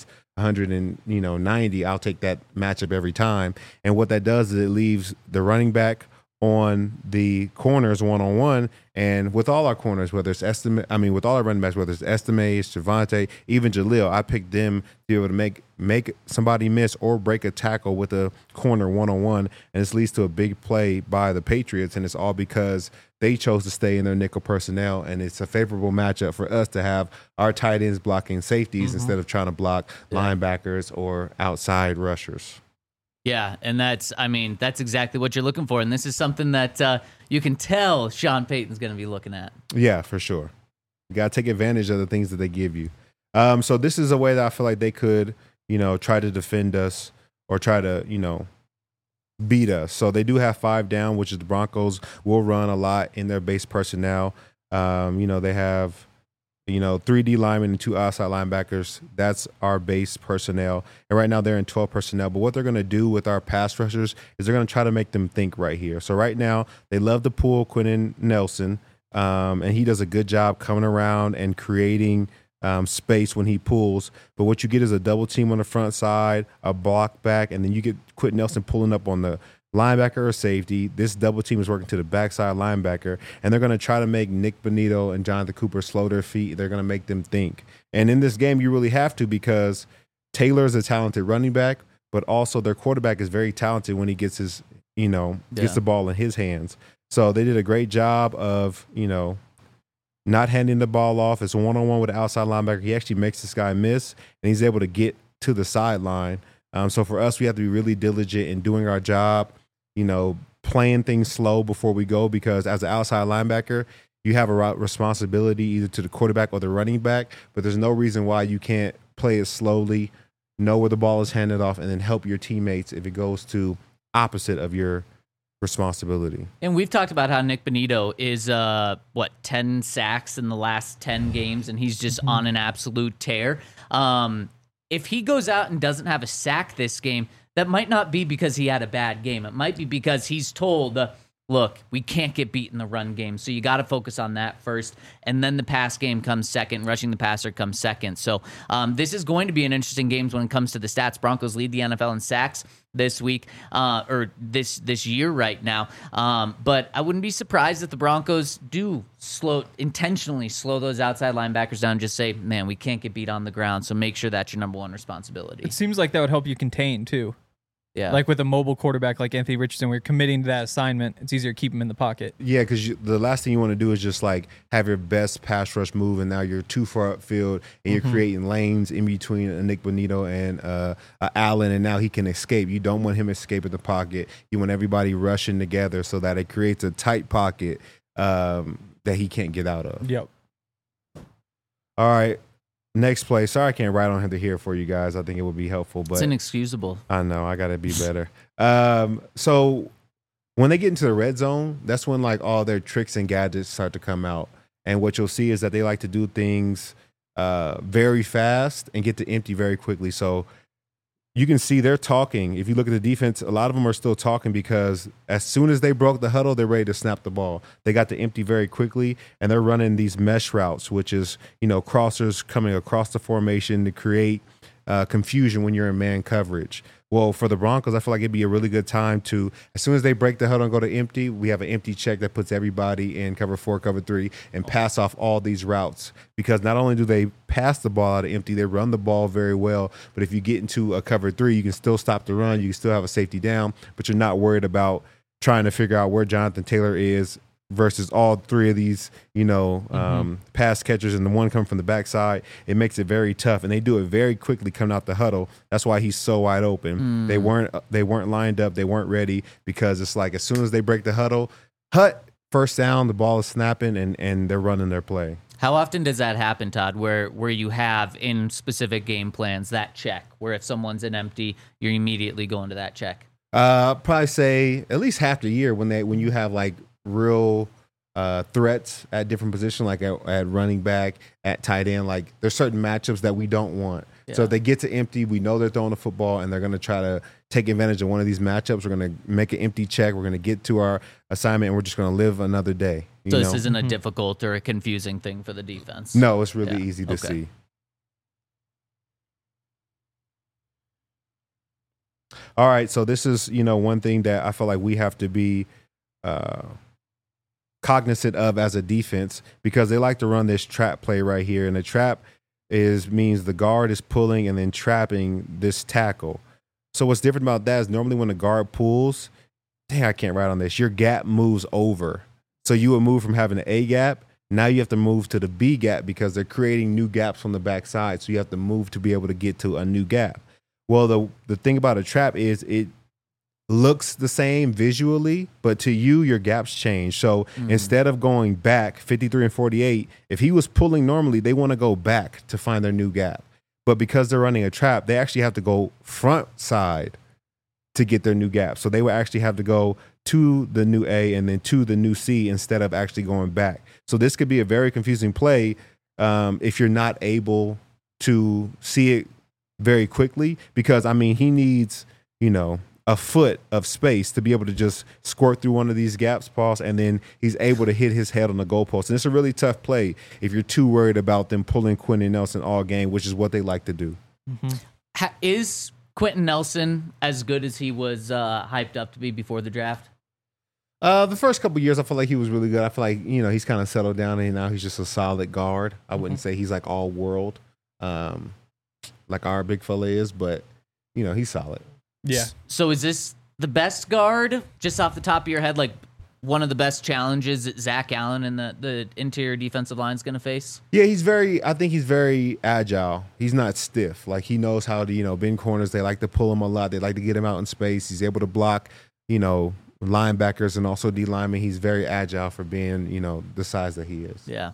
190. I'll take that matchup every time. And what that does is it leaves the running back on the corners one-on-one, and with all our corners, with all our running backs, whether it's Estime, Javante, even Jaleel, I picked them to be able to make somebody miss or break a tackle with a corner one-on-one, and this leads to a big play by the Patriots, and it's all because they chose to stay in their nickel personnel, and it's a favorable matchup for us to have our tight ends blocking safeties instead of trying to block linebackers or outside rushers. Yeah, and that's exactly what you're looking for. And this is something that you can tell Sean Payton's going to be looking at. Yeah, for sure. You got to take advantage of the things that they give you. So this is a way that I feel like they could, try to defend us or try to, beat us. So they do have 5 down, which is the Broncos will run a lot in their base personnel. They have 3 D linemen and 2 outside linebackers. That's our base personnel. And right now they're in 12 personnel. But what they're going to do with our pass rushers is they're going to try to make them think right here. So right now they love to pull Quentin Nelson, and he does a good job coming around and creating space when he pulls. But what you get is a double team on the front side, a block back, and then you get Quentin Nelson pulling up on the linebacker or safety. This double team is working to the backside linebacker, and they're going to try to make Nick Bonito and Jonathan Cooper slow their feet. They're going to make them think. And in this game, you really have to, because Taylor is a talented running back, but also their quarterback is very talented when he gets his, gets the ball in his hands. So they did a great job of, not handing the ball off. It's a one-on-one with the outside linebacker. He actually makes this guy miss, and he's able to get to the sideline. So for us, we have to be really diligent in doing our job, playing things slow before we go, because as an outside linebacker, you have a responsibility either to the quarterback or the running back, but there's no reason why you can't play it slowly, know where the ball is handed off, and then help your teammates if it goes to opposite of your responsibility. And we've talked about how Nick Bonito is 10 sacks in the last 10 games, and he's just on an absolute tear. If he goes out and doesn't have a sack this game, that might not be because he had a bad game. It might be because he's told, look, we can't get beat in the run game, so you got to focus on that first, and then the pass game comes second, rushing the passer comes second. So this is going to be an interesting game when it comes to the stats. Broncos lead the NFL in sacks this week, or this year right now. But I wouldn't be surprised if the Broncos do intentionally slow those outside linebackers down and just say, man, we can't get beat on the ground, so make sure that's your number one responsibility. It seems like that would help you contain, too. Yeah. Like with a mobile quarterback like Anthony Richardson, we're committing to that assignment. It's easier to keep him in the pocket. Yeah, because the last thing you want to do is just like have your best pass rush move, and now you're too far upfield, and you're creating lanes in between Nick Bonito and Allen, and now he can escape. You don't want him escaping the pocket. You want everybody rushing together so that it creates a tight pocket that he can't get out of. Yep. All right. Next play. Sorry I can't write on here for you guys. I think it would be helpful. But It's inexcusable. I know. I got to be better. So when they get into the red zone, that's when like all their tricks and gadgets start to come out. And what you'll see is that they like to do things very fast and get to empty very quickly. So you can see they're talking. If you look at the defense, a lot of them are still talking because as soon as they broke the huddle, they're ready to snap the ball. They got to empty very quickly, and they're running these mesh routes, which is, crossers coming across the formation to create confusion when you're in man coverage. Well, for the Broncos, I feel like it'd be a really good time to, as soon as they break the huddle and go to empty, we have an empty check that puts everybody in cover 4, cover 3, and pass off all these routes. Because not only do they pass the ball out of empty, they run the ball very well. But if you get into a cover 3, you can still stop the run. You can still have a safety down, but you're not worried about trying to figure out where Jonathan Taylor is versus all three of these, pass catchers and the one coming from the backside. It makes it very tough, and they do it very quickly coming out the huddle. That's why he's so wide open. They weren't lined up. They weren't ready because it's like as soon as they break the huddle, first down, the ball is snapping, and they're running their play. How often does that happen, Todd, where you have in specific game plans that check, where if someone's in empty, you're immediately going to that check? Probably say at least half the year when you have like real threats at different positions, like at running back, at tight end. Like there's certain matchups that we don't want. Yeah. So if they get to empty, we know they're throwing the football and they're going to try to take advantage of one of these matchups. We're going to make an empty check. We're going to get to our assignment and we're just going to live another day. So this isn't a difficult or a confusing thing for the defense. No, it's really easy to see. All right, so this is, one thing that I feel like we have to be cognizant of as a defense, because they like to run this trap play right here, and the trap means the guard is pulling and then trapping this tackle. So what's different about that is normally when the guard pulls, I can't write on this, your gap moves over. So you would move from having an A gap, now you have to move to the B gap because they're creating new gaps on the backside, so you have to move to be able to get to a new gap. Well, the thing about a trap is it looks the same visually, but to you, your gaps change. So instead of going back 53 and 48, if he was pulling normally, they want to go back to find their new gap. But because they're running a trap, they actually have to go front side to get their new gap. So they would actually have to go to the new A and then to the new C instead of actually going back. So this could be a very confusing play if you're not able to see it very quickly, because he needs, a foot of space to be able to just squirt through one of these gaps, pause, and then he's able to hit his head on the goalpost. And it's a really tough play if you're too worried about them pulling Quenton Nelson all game, which is what they like to do. Is Quenton Nelson as good as he was hyped up to be before the draft? The first couple of years, I feel like he was really good. I feel like, he's kind of settled down and now he's just a solid guard. I wouldn't say he's like all world, like our big fella is, but he's solid. Yeah. So is this the best guard, just off the top of your head, like one of the best challenges that Zach Allen and the interior defensive line is going to face? Yeah, I think he's very agile. He's not stiff. Like he knows how to, bend corners. They like to pull him a lot. They like to get him out in space. He's able to block, linebackers and also D linemen. He's very agile for being, the size that he is. Yeah.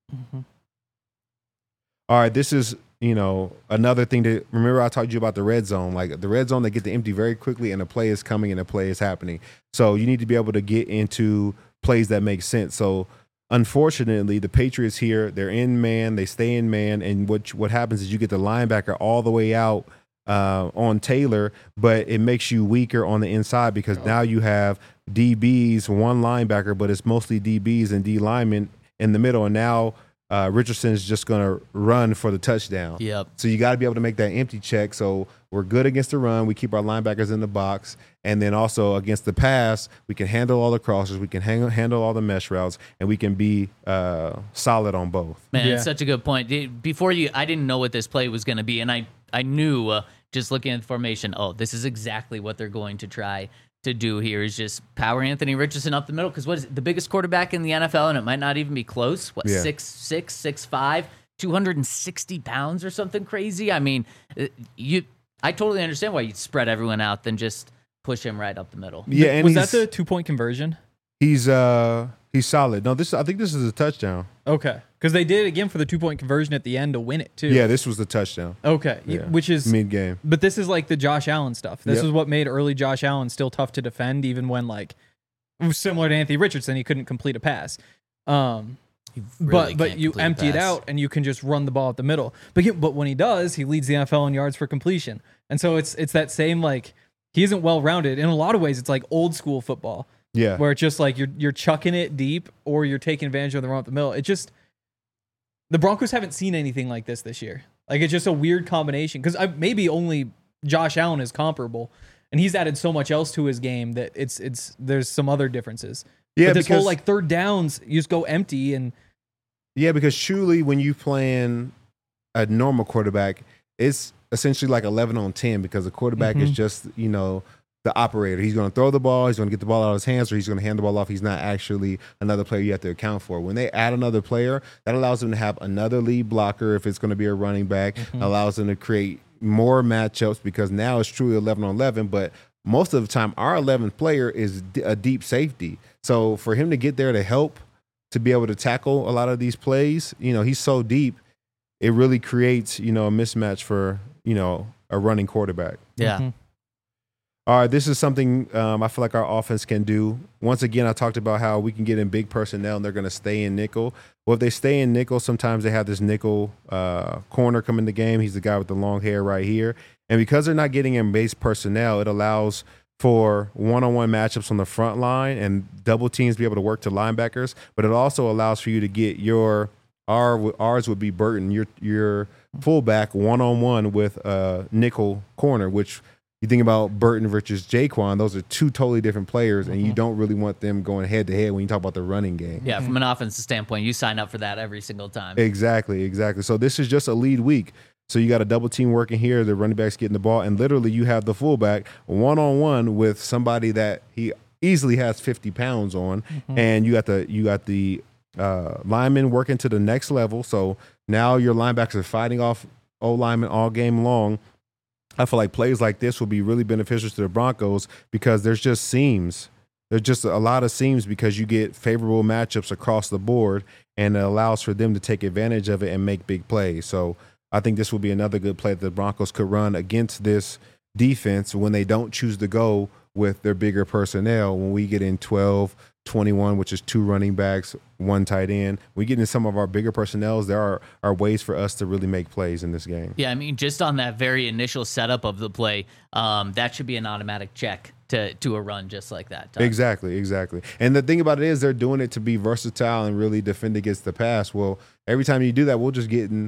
All right, this is, another thing to remember. I talked to you about the red zone. Like the red zone, they get to empty very quickly and the play is coming and the play is happening. So you need to be able to get into plays that make sense. So unfortunately, the Patriots here, they're in man, they stay in man, and what happens is you get the linebacker all the way out on Taylor, but it makes you weaker on the inside because now you have DBs, one linebacker, but it's mostly DBs and D linemen in the middle, and now Richardson is just going to run for the touchdown. Yep. So you got to be able to make that empty check. So we're good against the run. We keep our linebackers in the box. And then also against the pass, we can handle all the crossers. We can handle all the mesh routes. And we can be solid on both. Man, it's such a good point. I didn't know what this play was going to be. And I knew just looking at the formation, this is exactly what they're going to try to do here is just power Anthony Richardson up the middle, because what is it, the biggest quarterback in the NFL, and it might not even be close. 6'6", 6'5", 260 pounds or something crazy. I totally understand why you'd spread everyone out than just push him right up the middle. Yeah, and was that the 2-point conversion? He's solid. No, I think this is a touchdown. Okay, because they did it again for the 2-point conversion at the end to win it too. Yeah, this was the touchdown. Okay, which is mid-game. But this is like the Josh Allen stuff. This is what made early Josh Allen still tough to defend, even when like similar to Anthony Richardson, he couldn't complete a pass. Really But can't you complete a empty it pass. out and you can just run the ball up the middle. But when he does, he leads the NFL in yards for completion. And so it's that same, like, he isn't well rounded. In a lot of ways, it's like old school football. Yeah. Where it's just like you're chucking it deep or you're taking advantage of the run up the middle. It just, the Broncos haven't seen anything like this year. Like, it's just a weird combination because maybe only Josh Allen is comparable, and he's added so much else to his game that there's some other differences. Yeah, but this because whole like third downs, you just go empty and yeah, because truly, when you playing a normal quarterback, it's essentially like 11 on 10 because the quarterback is just, you know, the operator. He's going to throw the ball, he's going to get the ball out of his hands, or he's going to hand the ball off. He's not actually another player you have to account for. When they add another player, that allows them to have another lead blocker if it's going to be a running back, allows them to create more matchups because now it's truly 11 on 11, but most of the time our 11th player is a deep safety. So for him to get there to help, to be able to tackle a lot of these plays, you know, he's so deep, it really creates, you know, a mismatch for, you know, a running quarterback. Yeah. All right, this is something I feel like our offense can do. Once again, I talked about how we can get in big personnel and they're going to stay in nickel. Well, if they stay in nickel, sometimes they have this nickel corner come in the game. He's the guy with the long hair right here. And because they're not getting in base personnel, it allows for one-on-one matchups on the front line and double teams be able to work to linebackers. But it also allows for you to get ours would be Burton, your fullback one-on-one with a nickel corner, which you think about Burton versus Jaquan, those are two totally different players, and you don't really want them going head-to-head when you talk about the running game. Yeah, from an offensive standpoint, you sign up for that every single time. Exactly. So this is just a lead week. So you got a double team working here, the running back's getting the ball, and literally you have the fullback one-on-one with somebody that he easily has 50 pounds on, and you got the linemen working to the next level. So now your linebackers are fighting off O-linemen all game long. I feel like plays like this will be really beneficial to the Broncos because there's just seams. There's just a lot of seams because you get favorable matchups across the board, and it allows for them to take advantage of it and make big plays. So I think this will be another good play that the Broncos could run against this defense when they don't choose to go with their bigger personnel. When we get in 12-21, which is 2 running backs, 1 tight end, we get in some of our bigger personnels, there are ways for us to really make plays in this game. Yeah, I mean, just on that very initial setup of the play, that should be an automatic check to a run just like that. Todd. Exactly. And the thing about it is they're doing it to be versatile and really defend against the pass. Well, every time you do that, we'll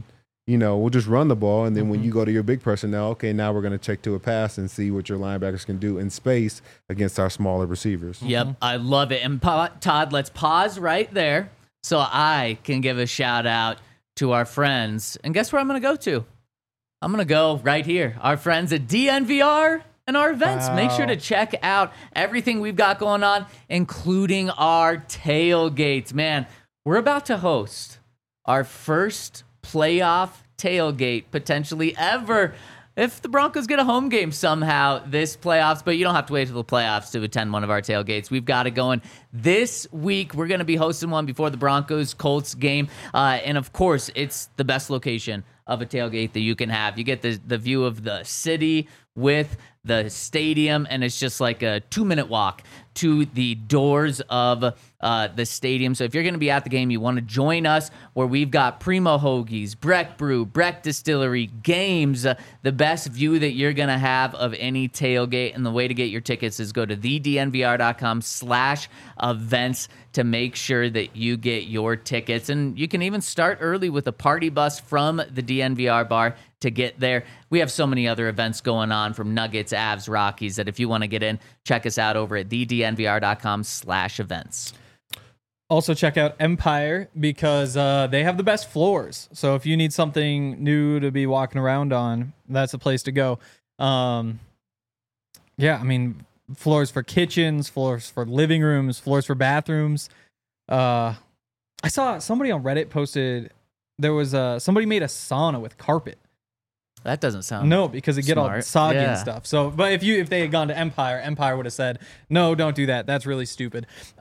just run the ball, and then when you go to your big personnel, okay, now we're going to check to a pass and see what your linebackers can do in space against our smaller receivers. Yep, I love it. And Todd, let's pause right there so I can give a shout out to our friends. And guess where I'm going to go to? I'm going to go right here. Our friends at DNVR and our events. Wow. Make sure to check out everything we've got going on, including our tailgates. Man, we're about to host our first playoff tailgate potentially ever if the Broncos get a home game somehow this playoffs, but you don't have to wait till the playoffs to attend one of our tailgates. We've got it going this week. We're going to be hosting one before the Broncos-Colts game, and of course, it's the best location of a tailgate that you can have. You get the view of the city with the stadium, and it's just like a 2-minute walk to the doors of the stadium. So if you're going to be at the game, you want to join us where we've got Primo Hoagies, Breck Brew, Breck Distillery, games, the best view that you're going to have of any tailgate. And the way to get your tickets is go to thednvr.com/events to make sure that you get your tickets. And you can even start early with a party bus from the DNVR bar to get there. We have so many other events going on from Nuggets, Avs, Rockies that if you want to get in, check us out over at thednvr.com/events. Also check out Empire because they have the best floors. So if you need something new to be walking around on, that's a place to go. Yeah, I mean, floors for kitchens, floors for living rooms, floors for bathrooms. I saw somebody on Reddit posted there was somebody made a sauna with carpet. That doesn't sound No, because it get all smart. soggy Yeah. and stuff. So, but if they had gone to Empire would have said, no, don't do that. That's really stupid.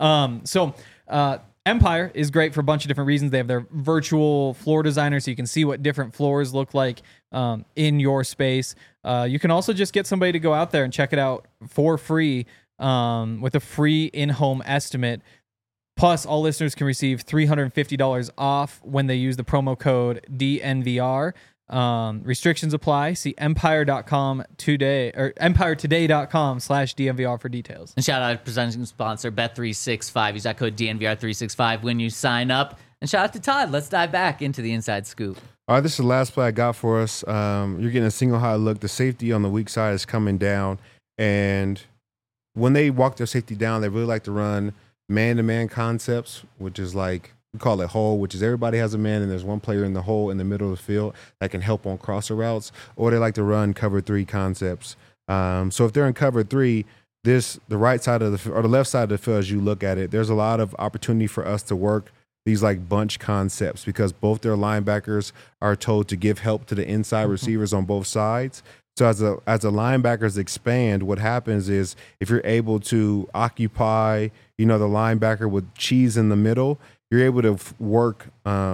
Empire is great for a bunch of different reasons. They have their virtual floor designer, so you can see what different floors look like in your space. You can also just get somebody to go out there and check it out for free with a free in-home estimate. Plus, all listeners can receive $350 off when they use the promo code DNVR. Restrictions apply. See empiretoday.com or empiretoday.com/DNVR for details. And shout out to presenting sponsor Bet365. Use that code DNVR365 when you sign up. And shout out to Todd. Let's dive back into the inside scoop. All right, this is the last play I got for us. You're getting a single high look. The safety on the weak side is coming down. And when they walk their safety down, they really like to run man-to-man concepts, which is like, we call it hole, which is everybody has a man and there's one player in the hole in the middle of the field that can help on crosser routes. Or they like to run cover 3 concepts. So if they're in cover 3, the right side of the or the left side of the field, as you look at it, there's a lot of opportunity for us to work these like bunch concepts because both their linebackers are told to give help to the inside receivers on both sides. So as the linebackers expand, what happens is if you're able to occupy, the linebacker with cheese in the middle, you're able to work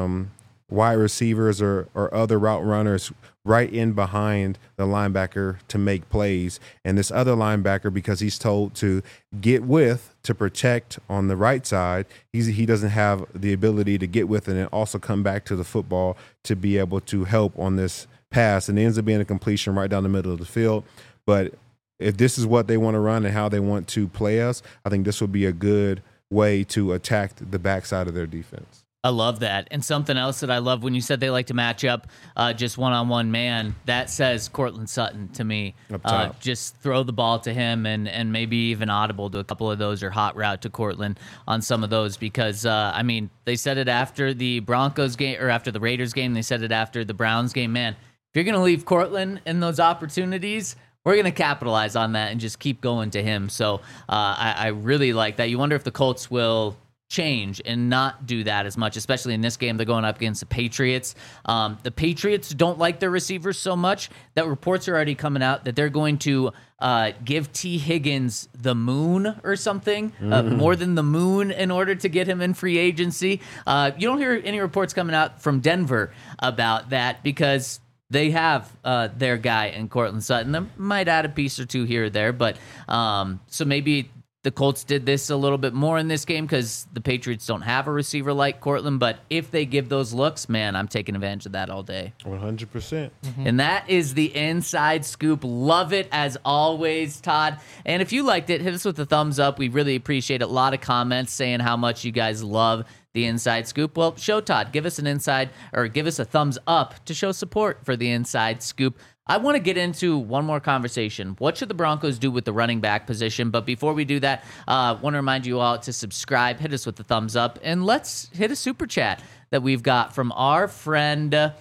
wide receivers or other route runners right in behind the linebacker to make plays. And this other linebacker, because he's told to get with to protect on the right side, he doesn't have the ability to get with and then also come back to the football to be able to help on this pass. And it ends up being a completion right down the middle of the field. But if this is what they want to run and how they want to play us, I think this would be a good way to attack the backside of their defense. I love that. And something else that I love when you said they like to match up just one-on-one man, that says Courtland Sutton to me. Up top. Just throw the ball to him and maybe even audible to a couple of those or hot route to Courtland on some of those because, they said it after the Broncos game or after the Raiders game. They said it after the Browns game. Man, if you're going to leave Courtland in those opportunities, we're going to capitalize on that and just keep going to him. So I really like that. You wonder if the Colts will change and not do that as much, especially in this game. They're going up against the Patriots. The Patriots don't like their receivers so much that reports are already coming out that they're going to give T. Higgins the moon or something, more than the moon in order to get him in free agency. You don't hear any reports coming out from Denver about that because they have their guy in Courtland Sutton. They might add a piece or two here or there, but so maybe the Colts did this a little bit more in this game because the Patriots don't have a receiver like Courtland, but if they give those looks, man, I'm taking advantage of that all day. 100%. And that is the inside scoop. Love it as always, Todd. And if you liked it, hit us with a thumbs up. We really appreciate it. A lot of comments saying how much you guys love the inside scoop. Well, show Todd, give us an inside or give us a thumbs up to show support for the inside scoop. I want to get into one more conversation. What should the Broncos do with the running back position? But before we do that, I want to remind you all to subscribe, hit us with the thumbs up, and let's hit a super chat that we've got from our friend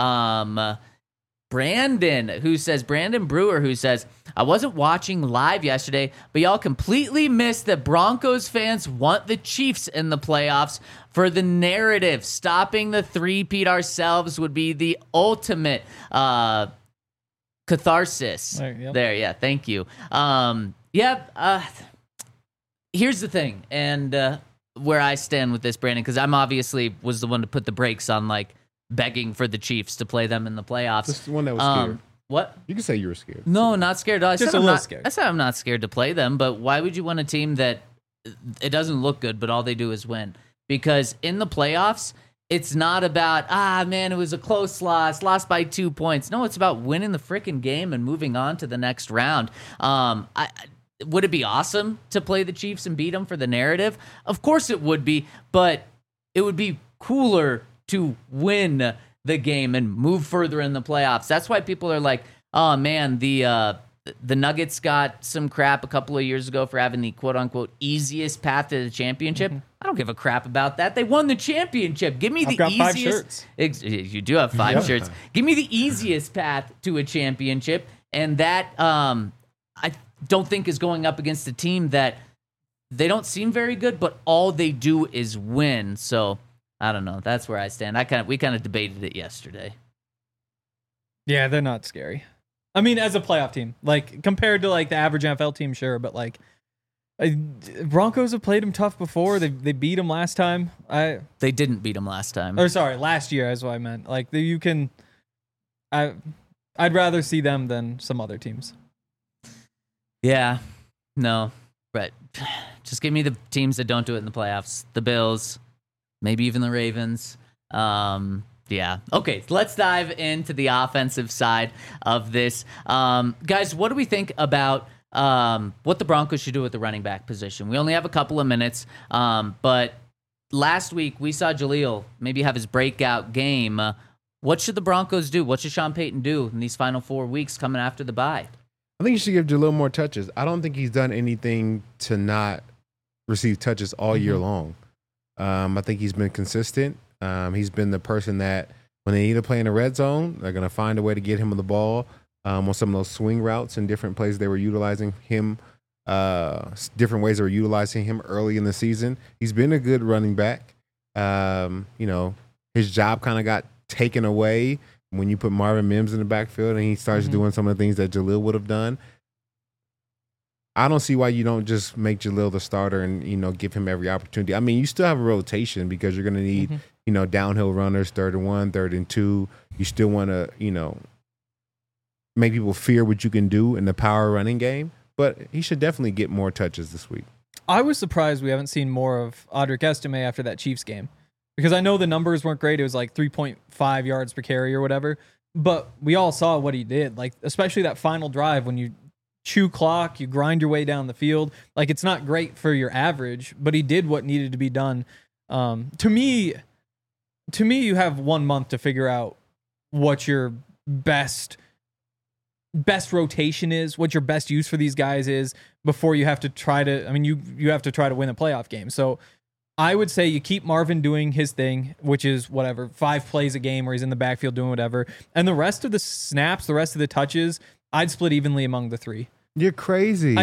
Brandon Brewer, who says, I wasn't watching live yesterday, but y'all completely missed that Broncos fans want the Chiefs in the playoffs for the narrative. Stopping the three-peat ourselves would be the ultimate catharsis. There, yeah, thank you. Here's the thing, and where I stand with this, Brandon, because I'm obviously was the one to put the brakes on, begging for the Chiefs to play them in the playoffs. Just the one that was scared. What? You can say you were scared. No, not scared. I Just said a I'm little not scared. I said I'm not scared to play them, but why would you want a team that it doesn't look good, but all they do is win? Because in the playoffs, it's not about, it was a close lost by 2 points. No, it's about winning the freaking game and moving on to the next round. Would it be awesome to play the Chiefs and beat them for the narrative? Of course it would be, but it would be cooler to win the game and move further in the playoffs. That's why people are like, oh man, the Nuggets got some crap a couple of years ago for having the quote-unquote easiest path to the championship. I don't give a crap about that. They won the championship. Give me the got 5 easiest. shirts. You do have 5 shirts. Give me the easiest path to a championship, and that I don't think is going up against a team that they don't seem very good, but all they do is win. So I don't know. That's where I stand. We kind of debated it yesterday. Yeah, they're not scary. I mean, as a playoff team, compared to the average NFL team, sure, but Broncos have played them tough before. They beat them last time. They didn't beat them last time. Or sorry, last year is what I meant. You can. I'd rather see them than some other teams. Yeah, no. But just give me the teams that don't do it in the playoffs. The Bills, maybe even the Ravens. Yeah. Okay, let's dive into the offensive side of this. Guys, what do we think about what the Broncos should do with the running back position? We only have a couple of minutes, but last week we saw Jaleel maybe have his breakout game. What should the Broncos do? What should Sean Payton do in these final 4 weeks coming after the bye? I think you should give Jaleel more touches. I don't think he's done anything to not receive touches all year long. I think he's been consistent. He's been the person that when they need to play in the red zone, they're going to find a way to get him on the ball on some of those swing routes and different plays they were utilizing him, different ways they were utilizing him early in the season. He's been a good running back. His job kind of got taken away when you put Marvin Mims in the backfield and he starts doing some of the things that Jaleel would have done. I don't see why you don't just make Jaleel the starter and, give him every opportunity. I mean, you still have a rotation because you're going to need, downhill runners, 3rd and 1, 3rd and 2. You still want to, make people fear what you can do in the power running game. But he should definitely get more touches this week. I was surprised we haven't seen more of Audric Estime after that Chiefs game. Because I know the numbers weren't great. It was like 3.5 yards per carry or whatever. But we all saw what he did. Like, especially that final drive when you chew clock, you grind your way down the field. Like, it's not great for your average, but he did what needed to be done. To me, you have 1 month to figure out what your best rotation is, what your best use for these guys is before you have to try to, you have to try to win a playoff game. So I would say you keep Marvin doing his thing, which is 5 plays a game where he's in the backfield doing whatever. And the rest of the snaps, the rest of the touches, I'd split evenly among the 3. You're crazy.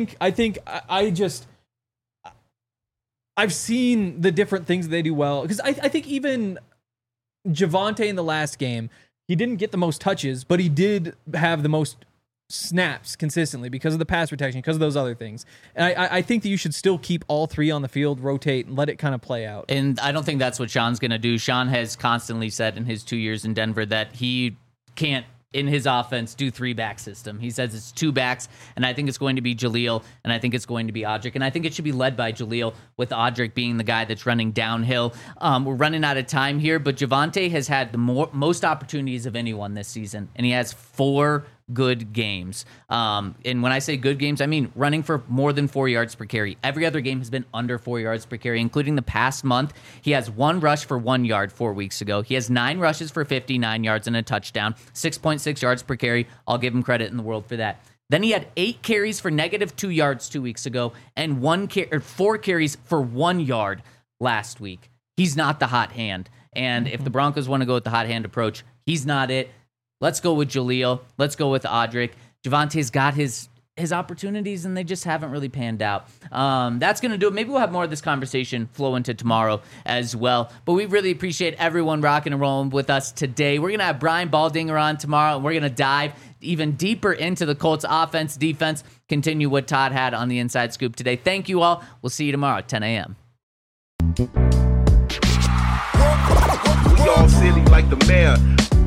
I've seen the different things they do well. Because I think even Javonte in the last game, he didn't get the most touches, but he did have the most snaps consistently because of the pass protection, because of those other things. And I think that you should still keep all 3 on the field, rotate, and let it kind of play out. And I don't think that's what Sean's going to do. Sean has constantly said in his 2 years in Denver that he can't, in his offense, do 3-back system. He says it's 2 backs, and I think it's going to be Jaleel, and I think it's going to be Audric, and I think it should be led by Jaleel, with Audric being the guy that's running downhill. We're running out of time here, but Javonte has had the most opportunities of anyone this season, and he has 4 good games. And when I say good games, I mean running for more than 4 yards per carry. Every other game has been under 4 yards per carry, including the past month. He has 1 rush for 1 yard 4 weeks ago. He has 9 rushes for 59 yards and a touchdown, 6.6 yards per carry. I'll give him credit in the world for that. Then he had 8 carries for -2 yards 2 weeks ago and 4 carries for 1 yard last week. He's not the hot hand. And if the Broncos want to go with the hot hand approach, he's not it. Let's go with Jaleel. Let's go with Audric. Javonte's got his opportunities, and they just haven't really panned out. That's going to do it. Maybe we'll have more of this conversation flow into tomorrow as well. But we really appreciate everyone rocking and rolling with us today. We're going to have Brian Baldinger on tomorrow, and we're going to dive even deeper into the Colts offense, defense, continue what Todd had on the Inside Scoop today. Thank you all. We'll see you tomorrow at 10 a.m. We all silly like the mayor.